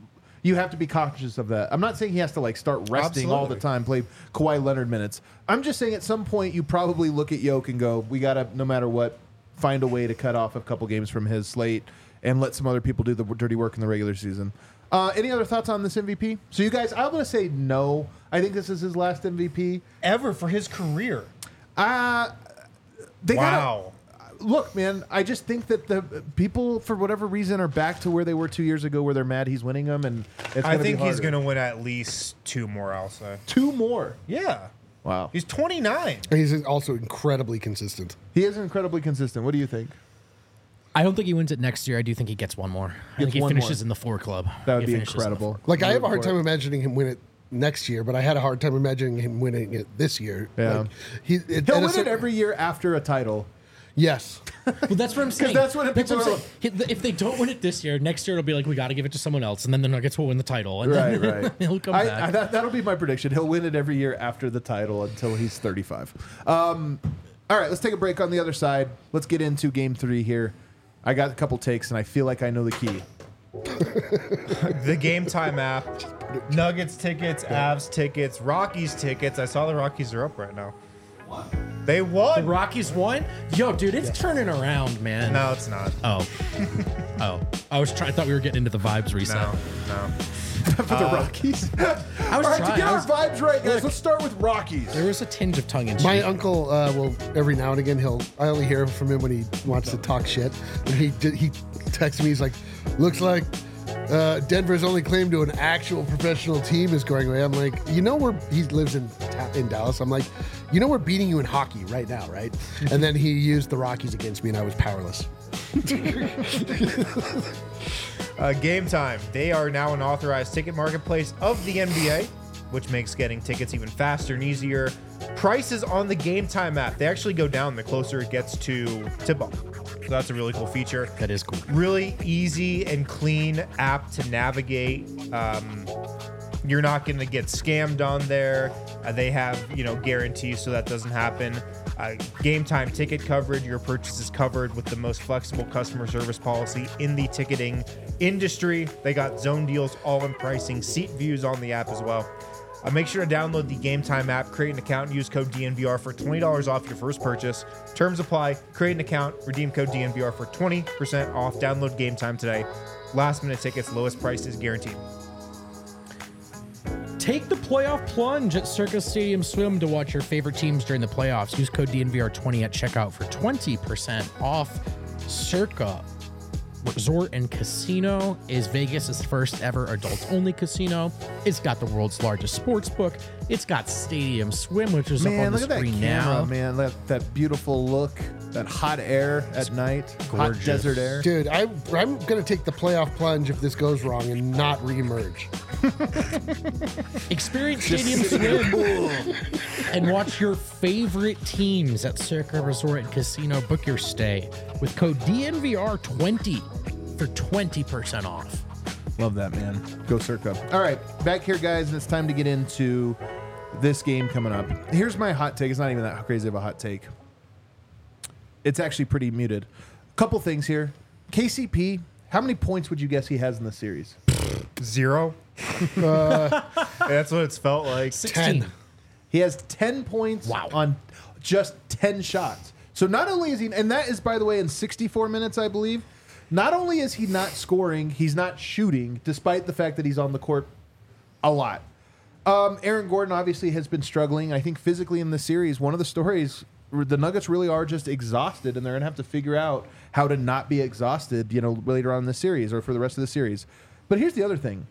You have to be conscious of that. I'm not saying he has to like start resting all the Absolutely. time, play Kawhi Leonard minutes. I'm just saying at some point you probably look at Yoke and go, we got to, no matter what, find a way to cut off a couple games from his slate and let some other people do the dirty work in the regular season. Uh, any other thoughts on this M V P? So you guys, I'm going to say no. I think this is his last M V P. Ever for his career. Uh, they Wow. gotta, look, man, I just think that the people, for whatever reason, are back to where they were two years ago where they're mad he's winning them. And it's I gonna think be he's harder. going to win at least two more, I'll say. Two more. Yeah. Wow. He's twenty-nine. And he's also incredibly consistent. He is incredibly consistent. What do you think? I don't think he wins it next year. I do think he gets one more. I think he one finishes more. in the four club. That would He be finishes in the incredible. four. Like I have a hard Rooting time for it. imagining him win it next year, but I had a hard time imagining him winning it this year. Yeah. Like, he, it, He'll at a win it certain- every year after a title. Yes. Well, that's what I'm saying. that's what That's people I'm are- saying. He- If they don't win it this year, next year it'll be like we got to give it to someone else, and then the Nuggets will win the title, and Right, then right. he'll come I, back. I, that, that'll be my prediction. He'll win it every year after the title until he's thirty-five. Um, all right, let's take a break on the other side. Let's get into game three here. I got a couple takes, and I feel like I know the key. The Game Time app. Nuggets tickets, Avs tickets, Rockies tickets. I saw the Rockies are up right now. They the won. Rockies won. Yo, dude, it's turning around, man. No, it's not. Oh, oh. I was trying. I thought we were getting into the vibes reset. No, no. For the Rockies. I was all right, to trying. get I our was- vibes right, guys, let's start with Rockies. There was a tinge of tongue in cheek. My uncle uh, will every now and again he'll I only hear from him when he wants to talk shit. And he did, he texts me. He's like, "Looks like uh, Denver's only claim to an actual professional team is going away." I'm like, you know, we're he lives in Ta- in Dallas. I'm like, you know, we're beating you in hockey right now, right? And then he used the Rockies against me, and I was powerless. Uh, Game Time. They are now an authorized ticket marketplace of the N B A, which makes getting tickets even faster and easier. Prices on the Game Time app, they actually go down the closer it gets to tip-off. So that's a really cool feature. That is cool. Really easy and clean app to navigate. Um, you're not going to get scammed on there. Uh, they have, you know, guarantees so that doesn't happen. Uh, Game Time ticket coverage. Your purchase is covered with the most flexible customer service policy in the ticketing industry. They got zone deals, all-in pricing, seat views on the app as well. Uh, make sure to download the Game Time app, create an account, and use code D N V R for twenty dollars off your first purchase. Terms apply. Create an account, redeem code D N V R for twenty percent off. Download Game Time today. Last minute tickets, lowest price is guaranteed. Take the playoff plunge at Circa Stadium Swim to watch your favorite teams during the playoffs. Use code D N V R twenty at checkout for twenty percent off. Circa Resort and Casino is Vegas' first ever adults-only casino. It's got the world's largest sports book. It's got Stadium Swim, which is up Man, on the look at that screen camera, now. man. That, that beautiful look, that hot air at night, hot gorgeous. desert air. Dude, I, I'm going to take the playoff plunge if this goes wrong and not reemerge. Experience Stadium Swim and watch your favorite teams at Circa Resort and Casino. Book your stay with code D N V R twenty for twenty percent off. Love that, man. Go Circa. All right, back here, guys, and it's time to get into this game coming up. Here's my hot take. It's not even that crazy of a hot take. It's actually pretty muted. Couple things here. K C P, how many points would you guess he has in the series? Zero. That's what it's felt like. sixteen. He has ten points Wow. on just ten shots. So not only is he, and that is, by the way, in sixty-four minutes, I believe. Not only is he not scoring, he's not shooting, despite the fact that he's on the court a lot. Um, Aaron Gordon obviously has been struggling. I think physically in the series, one of the stories, the Nuggets really are just exhausted, and they're going to have to figure out how to not be exhausted, you know, later on in the series or for the rest of the series. But here's the other thing.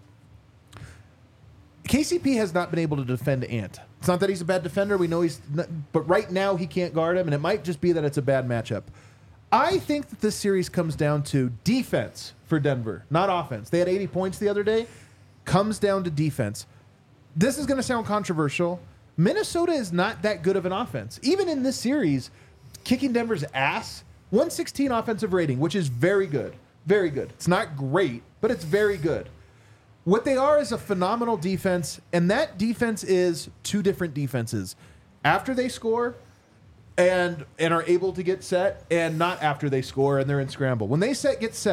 K C P has not been able to defend Ant. It's not that he's a bad defender. We know he's not, but right now he can't guard him, and it might just be that it's a bad matchup. I think that this series comes down to defense for Denver, not offense. They had eighty points the other day. Comes down to defense. This is going to sound controversial. Minnesota is not that good of an offense. Even in this series, kicking Denver's ass, one sixteen offensive rating, which is very good. Very good. It's not great, but it's very good. What they are is a phenomenal defense, and that defense is two different defenses. After they score and and are able to get set, and not after they score and they're in scramble. When they set get set,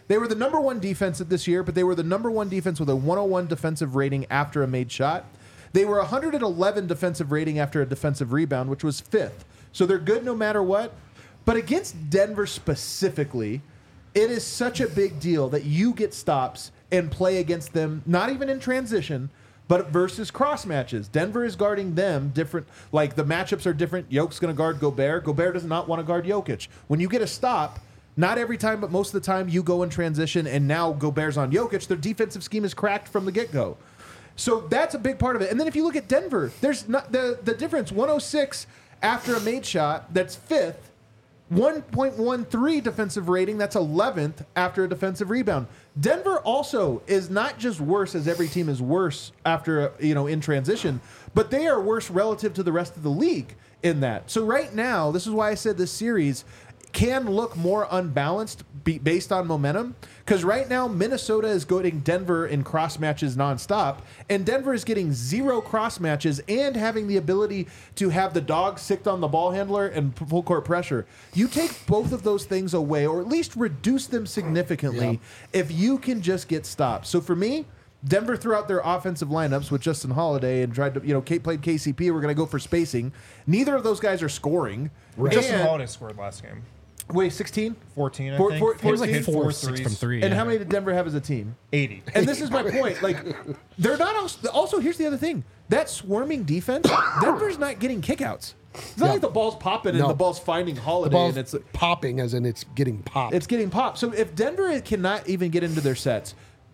They were the number one defense this year, but they were the number one defense with a one oh one defensive rating after a made shot. They were one hundred eleven defensive rating after a defensive rebound, which was fifth. So they're good no matter what. But against Denver specifically, it is such a big deal that you get stops and play against them, not even in transition, but versus cross matches. Denver is guarding them different. Like, the matchups are different. Jokic's going to guard Gobert. Gobert does not want to guard Jokic. When you get a stop, not every time, but most of the time, you go in transition, and now Gobert's on Jokic. Their defensive scheme is cracked from the get-go. So that's a big part of it. And then if you look at Denver, there's not the, the difference. one oh six after a made shot, that's fifth. one point one three defensive rating, that's eleventh after a defensive rebound. Denver also is not just worse, as every team is worse after, you know, in transition, but they are worse relative to the rest of the league in that. So right now, this is why I said this series can look more unbalanced be based on momentum, because right now Minnesota is getting Denver in cross matches nonstop, and Denver is getting zero cross matches and having the ability to have the dog sicked on the ball handler and full court pressure. You take both of those things away, or at least reduce them significantly, yeah. if you can just get stops. So for me, Denver threw out their offensive lineups with Justin Holiday and tried to, you know, Kate played K C P. We're going to go for spacing. Neither of those guys are scoring. Right. Justin Holiday scored last game. Wait, sixteen? fourteen, I four, think. Four, He was like hit four, four six threes. from three. And yeah. how many did Denver have as a team? eighty. And this is my point. Like, they're not also, also, here's the other thing. That swarming defense, Denver's not getting kickouts. It's not Yeah. like the ball's popping No. and the ball's finding The Holiday ball's and it's popping, as in it's getting popped. it's getting popped. So if Denver cannot even get into their sets,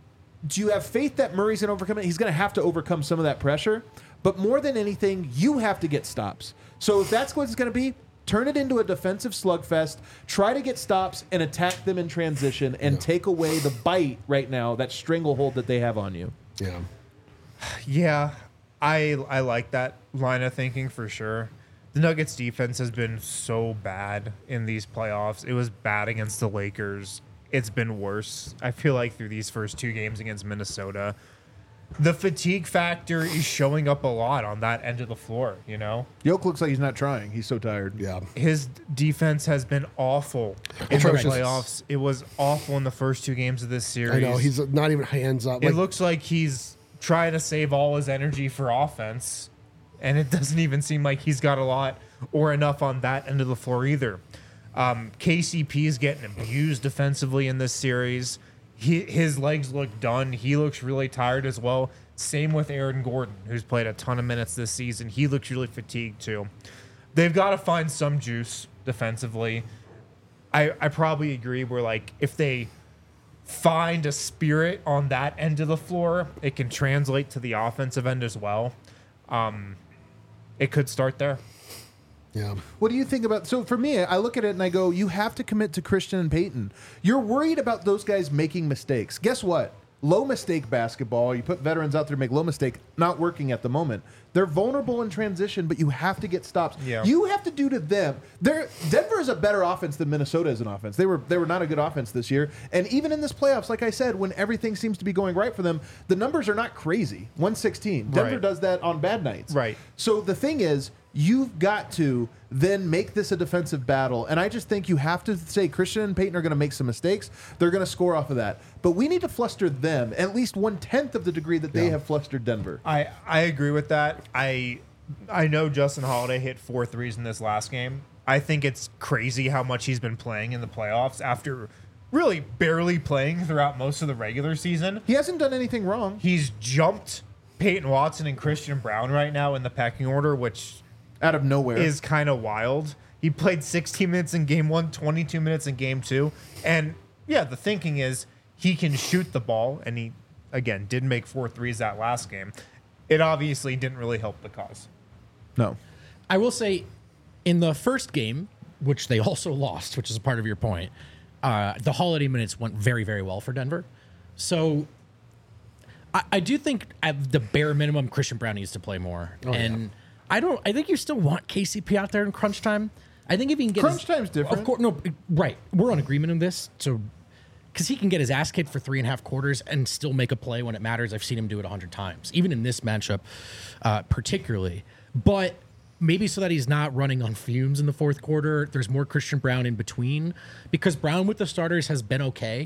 do you have faith that Murray's going to overcome it? He's going to have to overcome some of that pressure. But more than anything, you have to get stops. So if that's what it's going to be, turn it into a defensive slugfest. Try to get stops and attack them in transition and Yeah. take away the bite right now, that stranglehold that they have on you. yeah. Yeah, I I like that line of thinking for sure. The Nuggets defense has been so bad in these playoffs. It was bad against the Lakers. It's been worse, I feel like, through these first two games against Minnesota. The fatigue factor is showing up a lot on that end of the floor, you know? Yoke looks like he's not trying. He's so tired. Yeah. His defense has been awful in Atrocious. the playoffs. It was awful in the first two games of this series. I know. He's not even hands up. It Like, looks like he's trying to save all his energy for offense, and it doesn't even seem like he's got a lot or enough on that end of the floor either. Um, K C P is getting abused defensively in this series. He, his legs look done. He looks really tired as well. Same with Aaron Gordon, who's played a ton of minutes this season. He looks really fatigued too. They've got to find some juice defensively. I, I probably agree where, like, if they find a spirit on that end of the floor, it can translate to the offensive end as well. Um, it could start there. yeah. What do you think about? So for me, I look at it and I go, you have to commit to Christian and Peyton. You're worried about those guys making mistakes. Guess what? Low mistake basketball. You put veterans out there to make low mistake. Not working at the moment. They're vulnerable in transition, but you have to get stops. Yeah. You have to do to them. They're, Denver is a better offense than Minnesota is an offense. They were they were not a good offense this year. And even in this playoffs, like I said, when everything seems to be going right for them, the numbers are not crazy. one sixteen. Denver Right. does that on bad nights. Right. So the thing is, you've got to then make this a defensive battle. And I just think you have to say Christian and Peyton are going to make some mistakes. They're going to score off of that. But we need to fluster them at least one-tenth of the degree that they Yeah. have flustered Denver. I, I agree with that. I I know Justin Holiday hit four threes in this last game. I think it's crazy how much he's been playing in the playoffs after really barely playing throughout most of the regular season. He hasn't done anything wrong. He's jumped Peyton Watson and Christian Brown right now in the pecking order, which Out of nowhere. is kind of wild. He played sixteen minutes in game one, twenty-two minutes in game two. And yeah, the thinking is he can shoot the ball, and he, again, did make four threes that last game. It obviously didn't really help the cause. No. I will say, in the first game, which they also lost, which is a part of your point, uh, the holiday minutes went very, very well for Denver. So I, I do think at the bare minimum, Christian Brown needs to play more. Oh, and yeah. I don't. I think you still want K C P out there in crunch time. I think if he can get Crunch his, time's different. Of course, no, right. We're on agreement on this. So because he can get his ass kicked for three and a half quarters and still make a play when it matters. I've seen him do it a hundred times, even in this matchup, uh, particularly. But maybe so that he's not running on fumes in the fourth quarter. There's more Christian Brown in between, because Brown with the starters has been okay.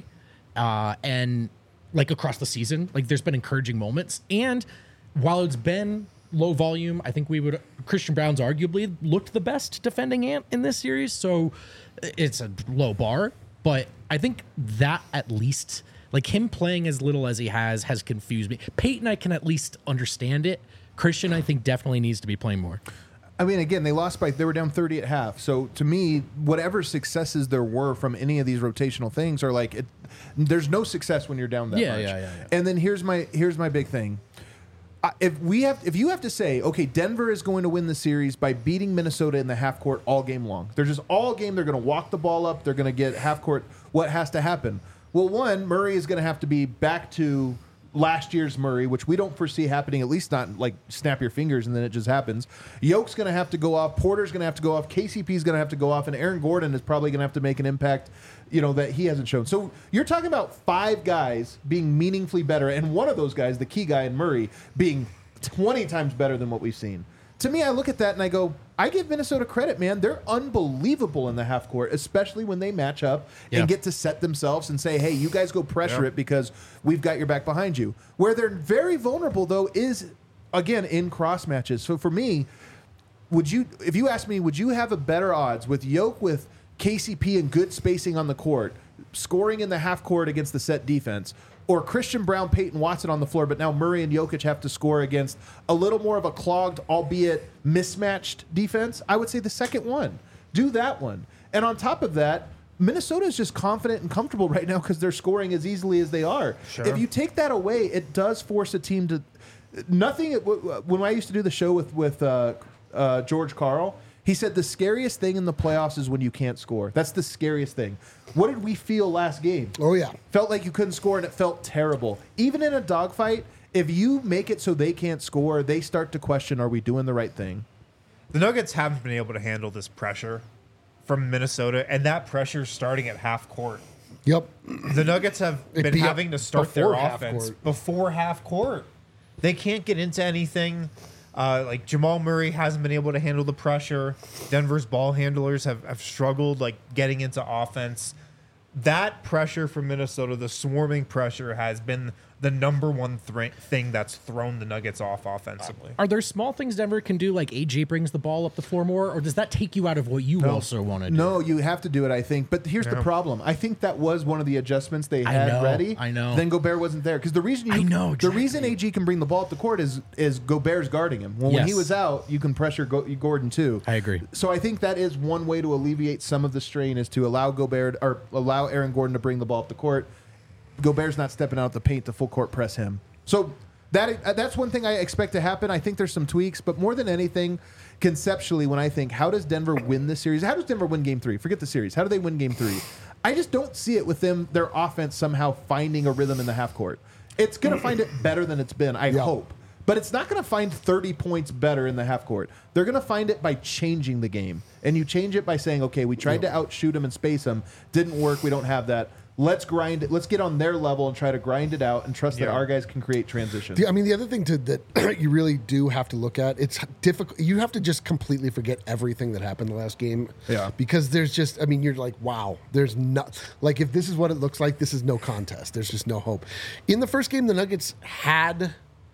uh, and like across the season, like there's been encouraging moments. And while it's been low volume, I think we would Christian Brown's arguably looked the best defending Ant in this series. So it's a low bar, but I think that at least like him playing as little as he has has confused me. Peyton, I can at least understand it. Christian, I think definitely needs to be playing more. I mean, again, they lost by, they were down thirty at half. So to me, whatever successes there were from any of these rotational things are like, it, there's no success when you're down that Yeah, much. yeah, yeah, yeah. And then here's my, here's my big thing. Uh, if we have, if you have to say, okay, Denver is going to win the series by beating Minnesota in the half court all game long. They're just all game. They're going to walk the ball up. They're going to get half court. What has to happen? Well, one, Murray is going to have to be back to last year's Murray, which we don't foresee happening, at least not like snap your fingers and then it just happens. Yoke's going to have to go off. Porter's going to have to go off. K C P is going to have to go off. And Aaron Gordon is probably going to have to make an impact, you know, that he hasn't shown. So you're talking about five guys being meaningfully better. And one of those guys, the key guy in Murray, being twenty times better than what we've seen. To me, I look at that and I go, I give Minnesota credit, man. They're unbelievable in the half court, especially when they match up Yeah. and get to set themselves and say, hey, you guys go pressure Yeah. it because we've got your back behind you. Where they're very vulnerable, though, is, again, in cross matches. So for me, would you, if you ask me, would you have a better odds with Yoke with K C P and good spacing on the court, scoring in the half court against the set defense, or Christian Brown, Peyton Watson on the floor, but now Murray and Jokic have to score against a little more of a clogged, albeit mismatched defense? I would say the second one. Do that one. And on top of that, Minnesota is just confident and comfortable right now because they're scoring as easily as they are. Sure. If you take that away, it does force a team to... Nothing... When I used to do the show with, with uh, uh, George Karl, he said the scariest thing in the playoffs is when you can't score. That's the scariest thing. What did we feel last game? Oh, yeah. Felt like you couldn't score and it felt terrible. Even in a dogfight, if you make it so they can't score, they start to question, are we doing the right thing? The Nuggets haven't been able to handle this pressure from Minnesota, and that pressure starting at half court. Yep. The Nuggets have It'd been be having to start their before half offense court. before half court. They can't get into anything. Uh, like Jamal Murray hasn't been able to handle the pressure. Denver's ball handlers have, have struggled like getting into offense. That pressure from Minnesota, the swarming pressure, has been the number one thre- thing that's thrown the Nuggets off offensively. Are there small things Denver can do, like A J brings the ball up the floor more, or does that take you out of what you also want to do? No, you have to do it, I think. But here's the Yeah. problem. I think that was one of the adjustments they I had know, ready. I know. Then Gobert wasn't there. Because the reason you I know, the reason exactly. A G can bring the ball up the court is is Gobert's guarding him. Well, when he Yes. was out, you can pressure Go- Gordon too. I agree. So I think that is one way to alleviate some of the strain is to allow Gobert or allow Aaron Gordon to bring the ball up the court. Gobert's not stepping out the paint to full court press him. So that uh, that's one thing I expect to happen. I think there's some tweaks, but more than anything, conceptually, when I think, how does Denver win this series? How does Denver win game three? Forget the series. How do they win game three? I just don't see it with them, their offense somehow finding a rhythm in the half court. It's going to find it better than it's been, I Yeah. hope. But it's not going to find thirty points better in the half court. They're going to find it by changing the game. And you change it by saying, okay, we tried to outshoot them and space them. Didn't work. We don't have that. Let's grind it. Let's get on their level and try to grind it out and trust that Yeah. our guys can create transition. The- I mean, the other thing to, that you really do have to look at, it's difficult. You have to just completely forget everything that happened the last game. Yeah. Because there's just, I mean, you're like, wow, there's not, like, if this is what it looks like, this is no contest. There's just no hope. In the first game, the Nuggets had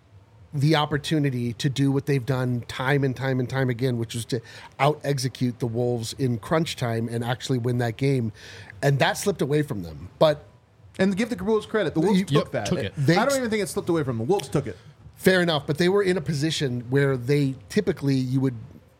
the opportunity to do what they've done time and time and time again, which was to out execute the Wolves in crunch time and actually win that game. And that slipped away from them. But And give the Wolves credit. The Wolves You- took Yep, that. took it. They- I don't even think it slipped away from them. The Wolves took it. fair enough, but they were in a position where they typically you would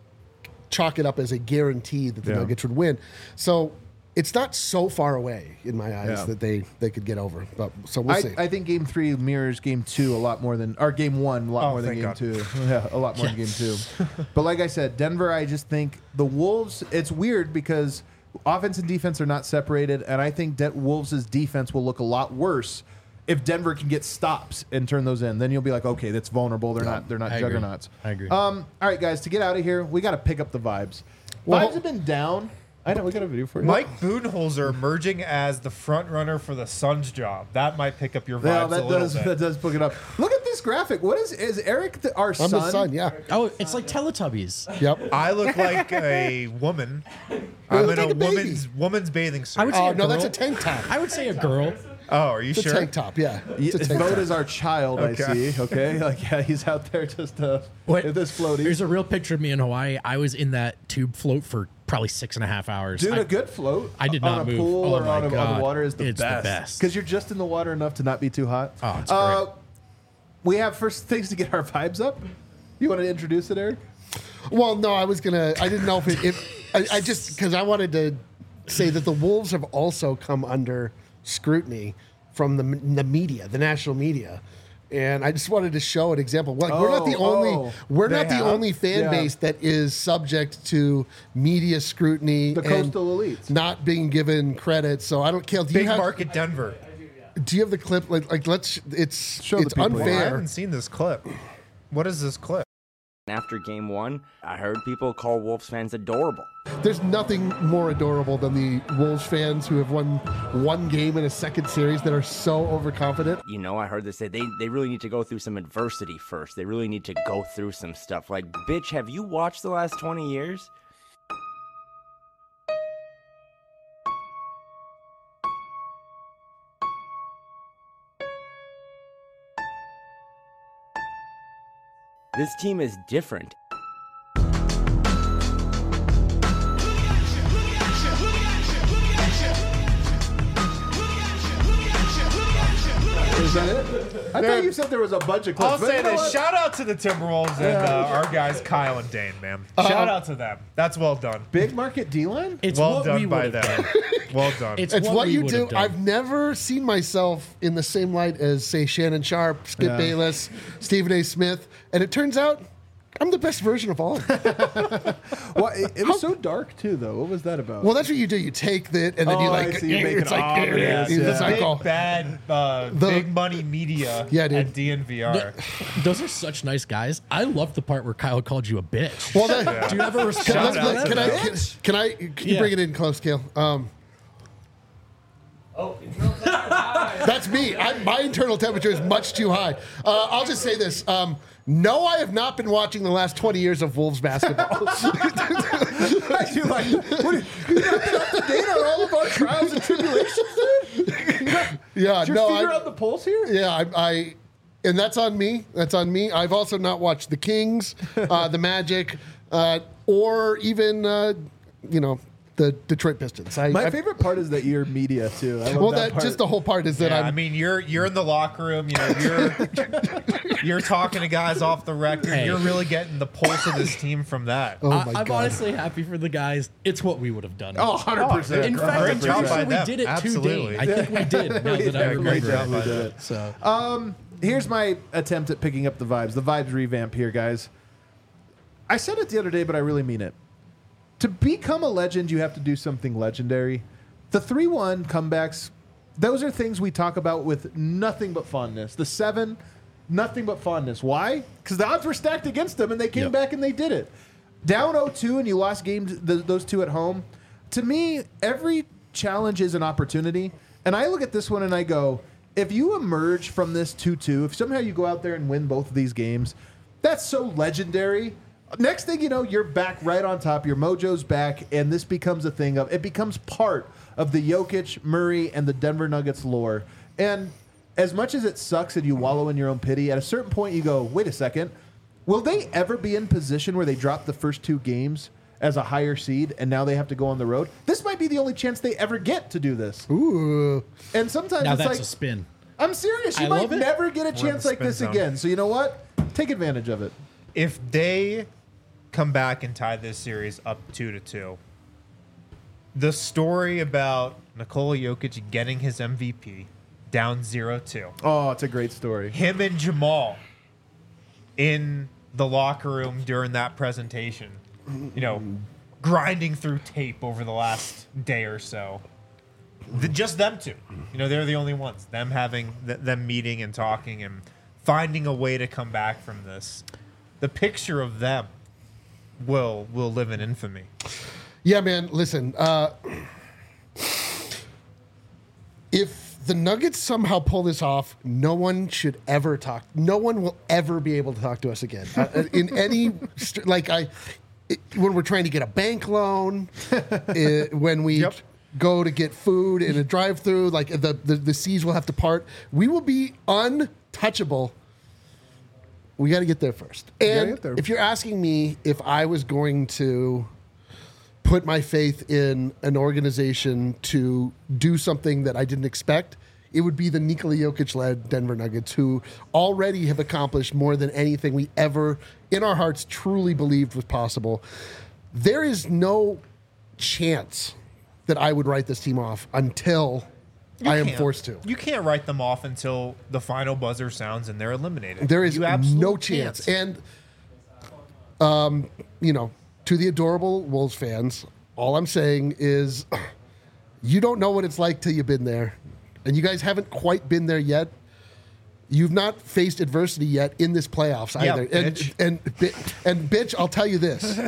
chalk it up as a guarantee that the Yeah. Nuggets would win. So it's not so far away in my eyes Yeah. that they, they could get over. But so we'll I, see. I think game three mirrors game two a lot more than, or game one a lot Oh, more than thank game God. two. Yeah, a lot more than game two. But like I said, Denver, I just think the Wolves, it's weird because offense and defense are not separated. And I think that Wolves' defense will look a lot worse if Denver can get stops and turn those in. Then you'll be like, okay, that's vulnerable. They're not, they're not I agree. juggernauts. I agree. Um, all right, guys, to get out of here, we got to pick up the vibes. Well- vibes have been down. I know, we got a video for you. Mike Budenholzer emerging as the front runner for the Suns job. That might pick up your vibes Yeah, a that little does bit. that does pick it up. Look at this graphic. What is is Eric the, our I'm son? the son, yeah. Oh, it's like Teletubbies. Yep. I look like a woman. I'm look in like a a baby. woman's woman's bathing suit. I would say Oh, a no, that's girl. a tank top. I would say a girl. Oh, are you It's sure? a tank top, yeah. It's a His tank boat top. is our child, Okay. I see. Okay, like yeah, he's out there just uh, Wait, with this floaty. There's a real picture of me in Hawaii. I was in that tube float for probably six and a half hours. Dude, I- a good float I did on not a move. pool Oh or my on, a, on God. the water is the It's the best. best. Because you're just in the water enough to not be too hot. Oh, it's Uh, great. we have first things to get our vibes up. You want to introduce it, Eric? Well, no, I was gonna. I didn't know if it. If, I, I just because I wanted to say that the Wolves have also come under scrutiny from the the media, the national media, and I just wanted to show an example. Like we're not the Oh, only oh, we're they not the have? only fan Yeah. base that is subject to media scrutiny. The and coastal elites. not being given credit. So I don't care. Do Big you have market Denver. do you have the clip? Like like let's. It's Show the it's people. I unfair. haven't seen this clip. What is this clip? After game one, I heard people call Wolves fans adorable. There's nothing more adorable than the Wolves fans who have won one game in a second series that are so overconfident. You know, I heard they say they, they really need to go through some adversity first. They really need to go through some stuff. Like, bitch, have you watched the last twenty years? This team is different. Is that it? I thought you said there was a bunch of clips. I'll but say you know this. what? Shout out to the Timberwolves and uh, our guys Kyle and Dane, man. Shout out to them. That's well done. Big market D-line? It's well what done we by would have them. done. Well done. It's, It's what, we you would do. have done. I've never seen myself in the same light as, say, Shannon Sharp, Skip Yeah. Bayless, Stephen A. Smith, and it turns out I'm the best version of all of them. Well, it, it was so dark too, though. What was that about? Well, that's what you do. You take that, and then you Oh, I like, see. You make it's it like, obvious, it's yeah. like, big oh. bad, uh, The- big money media Yeah, dude. at D N V R. Those are such nice guys. I love the part where Kyle called you a bitch. Well, that, Do you ever can, respond let's- to let's- that? can, I, can, can I? Can you Yeah. bring it in close, Kale? Um, That's me. I, my internal temperature is much too high. Uh, I'll just say this. Um, no, I have not been watching the last twenty years of Wolves basketball. I do like, what, are you you not been up to date on all of our trials and tribulations, dude? yeah, Is your no, finger I, on the pulse here? yeah, I, I, and that's on me. That's on me. I've also not watched the Kings, uh, the Magic, uh, or even, uh, you know, the Detroit Pistons. I, My I- favorite part is that you're media, too. I love Well, that, that part. just the whole part is that Yeah, I'm. I mean, you're you're in the locker room. You know, you're you're talking to guys off the record. Hey. You're really getting the pulse of this team from that. oh I, my I'm God. honestly happy for the guys. It's what we would have done. Oh, one hundred percent. In great fact, I'm job pretty by sure we them. did it Absolutely. today. I think we did. Now that I Yeah, great remember. job by We did them. it. So Here's my attempt at picking up the vibes. The vibes revamp here, guys. I said it the other day, but I really mean it. To become a legend, you have to do something legendary. The three one comebacks, those are things we talk about with nothing but fondness. The seven, nothing but fondness. Why? Because the odds were stacked against them, and they came Yep. back and they did it. Down oh two, and you lost games, th- those two at home. To me, every challenge is an opportunity. And I look at this one and I go, if you emerge from this two two, if somehow you go out there and win both of these games, that's so legendary. Next thing you know, you're back right on top. Your mojo's back, and this becomes a thing of it becomes part of the Jokic, Murray, and the Denver Nuggets lore. And as much as it sucks and you wallow in your own pity, at a certain point you go, wait a second, will they ever be in position where they drop the first two games as a higher seed and now they have to go on the road? This might be the only chance they ever get to do this. Ooh. And sometimes now it's that's like a spin. I'm serious. You I might love it. never get a We're in chance the like spin this zone. again. So you know what? Take advantage of it. If they come back and tie this series up two to two, the story about Nikola Jokic getting his M V P down zero two, Oh, it's a great story. him and Jamal in the locker room during that presentation, you know, grinding through tape over the last day or so. The, just them two, you know, they're the only ones. Them having th- them meeting and talking and finding a way to come back from this. The picture of them will will live in infamy. Yeah, man. Listen, uh, if the Nuggets somehow pull this off, no one should ever talk. No one will ever be able to talk to us again uh, in any st- like I. It, when we're trying to get a bank loan, uh, when we Yep. go to get food in a drive-through. Like the, the the seas will have to part. We will be untouchable. We got to get there first. And get there. if you're asking me if I was going to put my faith in an organization to do something that I didn't expect, it would be the Nikola Jokic-led Denver Nuggets, who already have accomplished more than anything we ever, in our hearts, truly believed was possible. There is no chance that I would write this team off until You I am can't. forced to. You can't write them off until the final buzzer sounds and they're eliminated. There is You absolutely no chance. And, um, you know, to the adorable Wolves fans, all I'm saying is you don't know what it's like till you've been there. And you guys haven't quite been there yet. You've not faced adversity yet in this playoffs Yeah, either. And, bitch. and, bi- and bitch, I'll tell you this.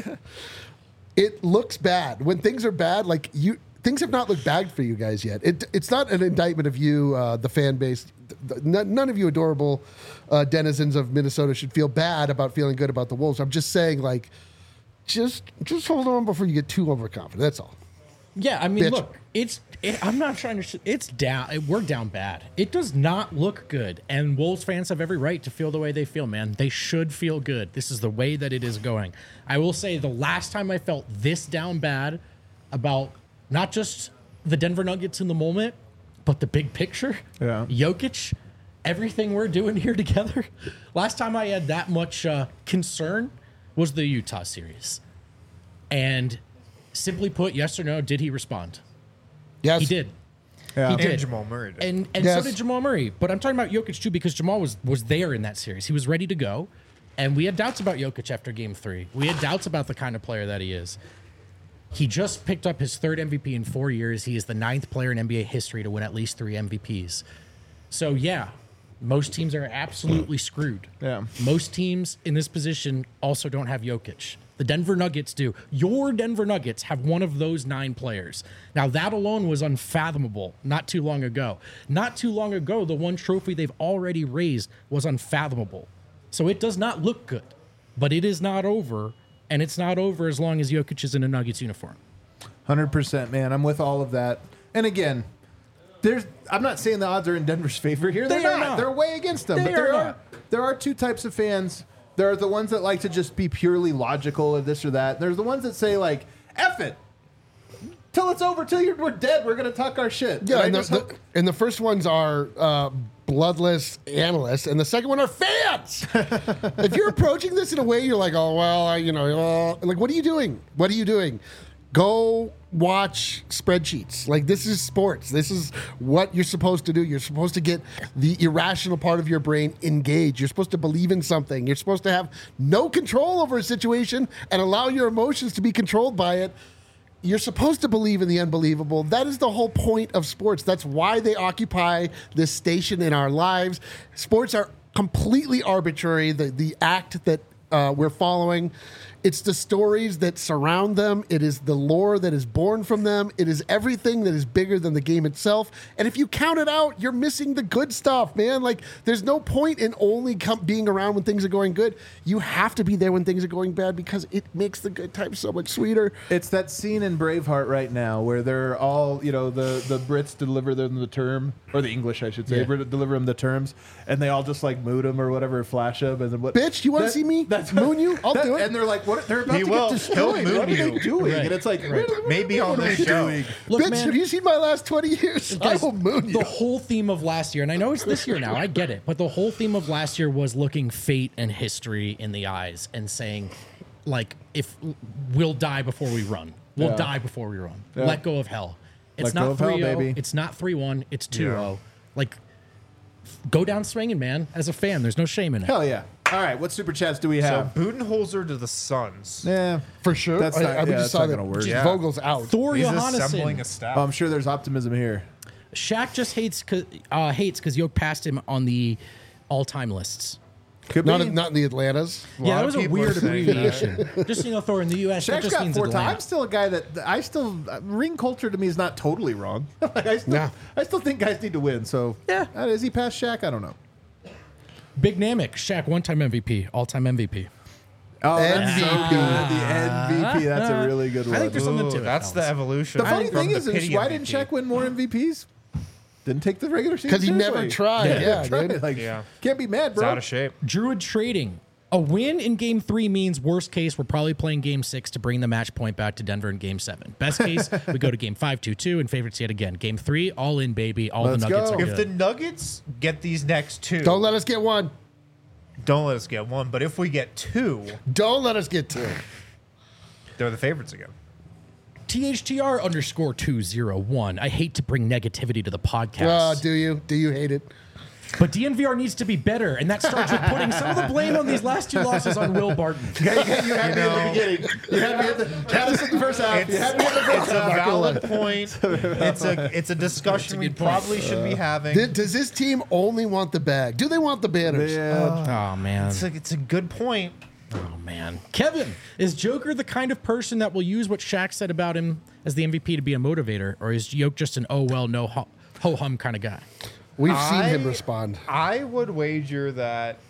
It looks bad. When things are bad, like you things have not looked bad for you guys yet. It, it's not an indictment of you, uh, the fan base. Th- None none of you adorable uh, denizens of Minnesota should feel bad about feeling good about the Wolves. I'm just saying, like, just just hold on before you get too overconfident. That's all. Yeah, I mean, Bitch. look, it's. It, I'm not trying to. It's down. We're down bad. It does not look good, and Wolves fans have every right to feel the way they feel. Man, they should feel good. This is the way that it is going. I will say, the last time I felt this down bad about not just the Denver Nuggets in the moment, but the big picture. Yeah. Jokic, everything we're doing here together. Last time I had that much uh, concern was the Utah series, and simply put, yes or no, did he respond? Yes, He did. Yeah. He And did. Jamal Murray did. And and Yes. so did Jamal Murray. But I'm talking about Jokic too, because Jamal was was there in that series. He was ready to go. And we had doubts about Jokic after game three. We had doubts about the kind of player that he is. He just picked up his third M V P in four years. He is the ninth player in N B A history to win at least three M V Ps. So yeah, most teams are absolutely screwed. Yeah. Most teams in this position also don't have Jokic. The Denver Nuggets do. Your Denver Nuggets have one of those nine players. Now, that alone was unfathomable not too long ago. Not too long ago, the one trophy they've already raised was unfathomable. So it does not look good, but it is not over, and it's not over as long as Jokic is in a Nuggets uniform. one hundred percent, man. I'm with all of that. And again, there's. I'm not saying the odds are in Denver's favor here. They're They are not. not. They're way against them. They but there are are, not. there are two types of fans. There are the ones that like to just be purely logical of this or that. There's the ones that say like, "F it, till it's over, till you're, we're dead. We're gonna talk our shit." Yeah, I and the, just the, hope- and the first ones are uh, bloodless analysts, and the second one are fans. If you're approaching this in a way, you're like, oh well, I, you know, uh, like what are you doing? What are you doing? Go watch spreadsheets. Like this is sports. This is what you're supposed to do. You're supposed to get the irrational part of your brain engaged. You're supposed to believe in something. You're supposed to have no control over a situation and allow your emotions to be controlled by it. You're supposed to believe in the unbelievable. That is the whole point of sports. That's why they occupy this station in our lives. Sports are completely arbitrary. The the act that uh, we're following, it's the stories that surround them. It is the lore that is born from them. It is everything that is bigger than the game itself. And if you count it out, you're missing the good stuff, man. Like there's no point in only com- being around when things are going good. You have to be there when things are going bad because it makes the good times so much sweeter. It's that scene in Braveheart right now where they're all, you know, the, the Brits deliver them the term, or the English, I should say, Yeah. Brit- deliver them the terms, and they all just like mood them or whatever, flash them, and then what? Bitch, you want to That- see me? That's moon you? I'll that- do it. And they're like, what? They're about He to will. get destroyed. He'll moon What are they you. doing? Right. And it's like, Right. what- Maybe what on are this we show. doing? Look, Bitch, man, have you seen my last twenty years? guys, I will moon you. the whole theme of last year, and I know it's this year now, I get it, but the whole theme of last year was looking fate and history in the eyes and saying, like, if we'll die before we run, we'll Yeah. die before we run. Yeah. Let go of hell. It's Let go not of hell, three oh, baby. it's not three one, it's two oh. Yeah. Like, go down swinging, man. As a fan, there's no shame in it. Hell yeah! All right, what super chats do we So have? Budenholzer to the Suns. Yeah, For sure. That's I, not- I, we yeah, just that's saw not that. gonna work. Just Yeah. Vogel's out. Thor He's assembling Johannesson. a staff. I'm sure there's optimism here. Shaq just hates cause, uh, hates because Yoke passed him on the all-time lists. Could Not, be. in, not in the Atlantas. Yeah, lot that of was a people are weird saying that. abbreviation. Just so you know, Thor, in the U S, that Shaq's just got means four Atlanta. times. Still a guy that I still uh, ring culture to me is not totally wrong. like I still, Nah. I still think guys need to win. So Yeah. uh, is he past Shaq? I don't know. Big Namek, Shaq, one-time M V P, all-time M V P. Oh, that's M V P. so good. The M V P. That's a really good one. I think there's something Ooh, to it. that's the Alex. evolution. The funny from thing the is, is pity why M V P. didn't Shaq win more M V Ps? Didn't take the regular season Because he never seriously. tried. Yeah, Never tried. dude. Like, Yeah. can't be mad, It's bro. out of shape. Druid trading. A win in game three means worst case, we're probably playing game six to bring the match point back to Denver in game seven. Best case, we go to game five, two, two, and favorites yet again. Game three, all in, baby. All Let's the Nuggets go. are If the good. Nuggets get these next two, Don't let us get one. don't let us get one. But if we get two, Don't let us get two. they're the favorites again. T H T R underscore two zero one. I hate to bring negativity to the Uh, podcast, do you? Do you hate it? but D N V R needs to be better, and that starts with putting some of the blame on these last two losses on Will Barton. You had me at the beginning. You had me at the, had us at the first half. It's, You had me at the first it's a half. valid point. It's a it's a discussion we good point. probably should be having. Th- Does this team only want the bag? Do they want the banners? Yeah. Oh man. It's a, it's a good point. Oh man, Kevin, is Joker the kind of person that will use what Shaq said about him as the M V P to be a motivator, or is Joke just an oh well no ho hum kind of guy? We've seen him I- respond. I would wager that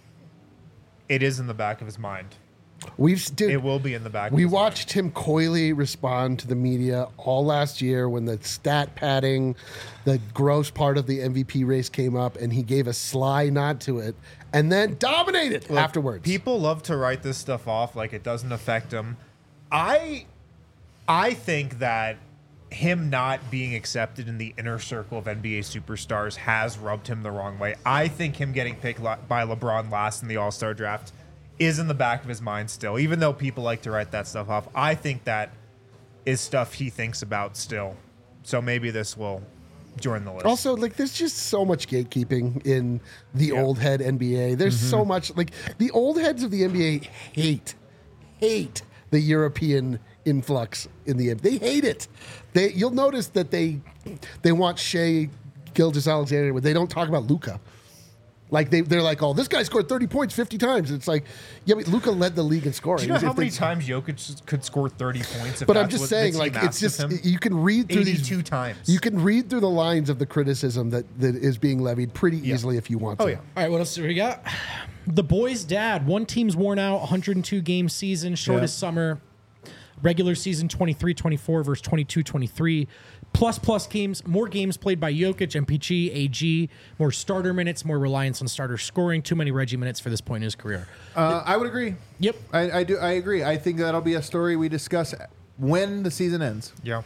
it is in the back of his mind. We've dude, It will be in the back. we of his watched Tim Coyley respond to the media all last year when the stat padding, the gross part of the M V P race came up, and he gave a sly nod to it, and then dominated Look, afterwards. People love to write this stuff off like it doesn't affect them. I I think that him not being accepted in the inner circle of N B A superstars has rubbed him the wrong way. I think him getting picked la- by LeBron last in the All-Star draft is in the back of his mind still, even though people like to write that stuff off. I think that is stuff he thinks about still. So maybe this will join the list. Also, like, there's just so much gatekeeping in the Yeah. old head N B A. There's so much, like, the old heads of the N B A hate, hate the European influx in the N B A. They hate it. They, you'll notice that they, they want Shea Gilgeous-Alexander, but they don't talk about Luka. Like they, they're like, oh, this guy scored thirty points fifty times. It's like, yeah, but Luka led the league in scoring. Do you know If how many they- times Jokic could score thirty points? If But I'm that's just what saying, the like, team it's asks just of him? you can read through these eighty-two times. You can read through the lines of the criticism that that is being levied pretty easily if you want to. Oh yeah. All right, what else do we got? The boys' dad. One team's worn out, one hundred two game season, shortest Yeah. summer. Regular season twenty-three twenty-four versus twenty-two twenty-three. Plus, plus games, more games played by Jokic, M P G, A G, more starter minutes, more reliance on starter scoring, too many Reggie minutes for this point in his career. Uh, I would agree. Yep. I, I do. I agree. I think that'll be a story we discuss when the season ends. Yeah.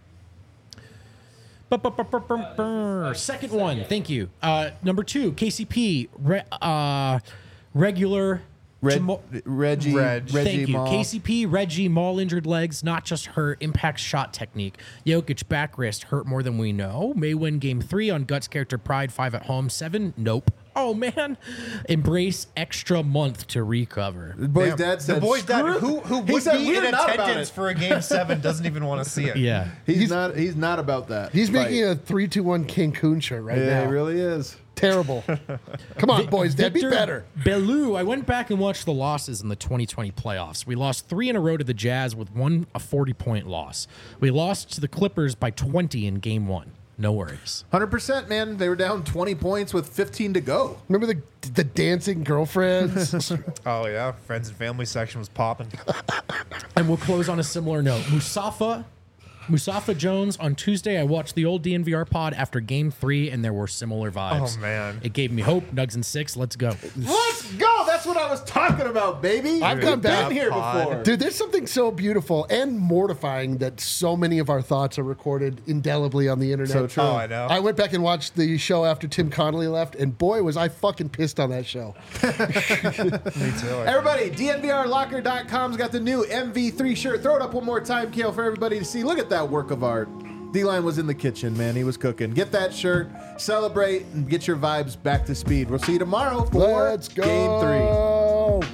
Ba-ba-ba-ba-ba-ba. Second one, thank you. Uh, number two, K C P, re- uh, regular. Reg, Jamo- Reggie, Reg. Reggie Thank you. Mall. K C P, Reggie, Mall injured legs, not just hurt, impact shot technique. Jokic back wrist hurt more than we know. May win game three on Guts character pride, five at home, seven, nope. Oh man. Embrace extra month to recover. The boy's Damn. dad said, the boy's dad, "Screw it." who who He would said, be "We're in not about attendance it." for a game seven, doesn't even want to see it. Yeah. He's, not. He's not about that. He's fight. making a three two one Cancun shirt right Yeah, now. he really is. Terrible. Come on, boys, Dad, be Victor better. Bellew, I went back and watched the losses in the twenty twenty playoffs. We lost three in a row to the Jazz with one a forty point loss. We lost to the Clippers by twenty in game one. No worries. one hundred percent, man. They were down twenty points with fifteen to go. Remember the the dancing girlfriends? Oh yeah, friends and family section was popping. And we'll close on a similar note. Musafa, Musafa Jones on Tuesday. I watched the old D N V R pod after game three, and there were similar vibes. Oh, man. It gave me hope. Nugs and six. Let's go. Let's go. That's what I was talking about, baby. I've We've gone back- been here pod. before. Dude, there's something so beautiful and mortifying that so many of our thoughts are recorded indelibly on the internet. So true. Oh, I know. I went back and watched the show after Tim Connolly left, and boy, was I fucking pissed on that show. Me too. Everybody, D N V R locker dot com's got the new M V three shirt. Throw it up one more time, Kale, for everybody to see. Look at that work of art. D-Line was in the kitchen, man. He was cooking. Get that shirt, celebrate, and get your vibes back to speed. We'll see you tomorrow for Let's go. Game three.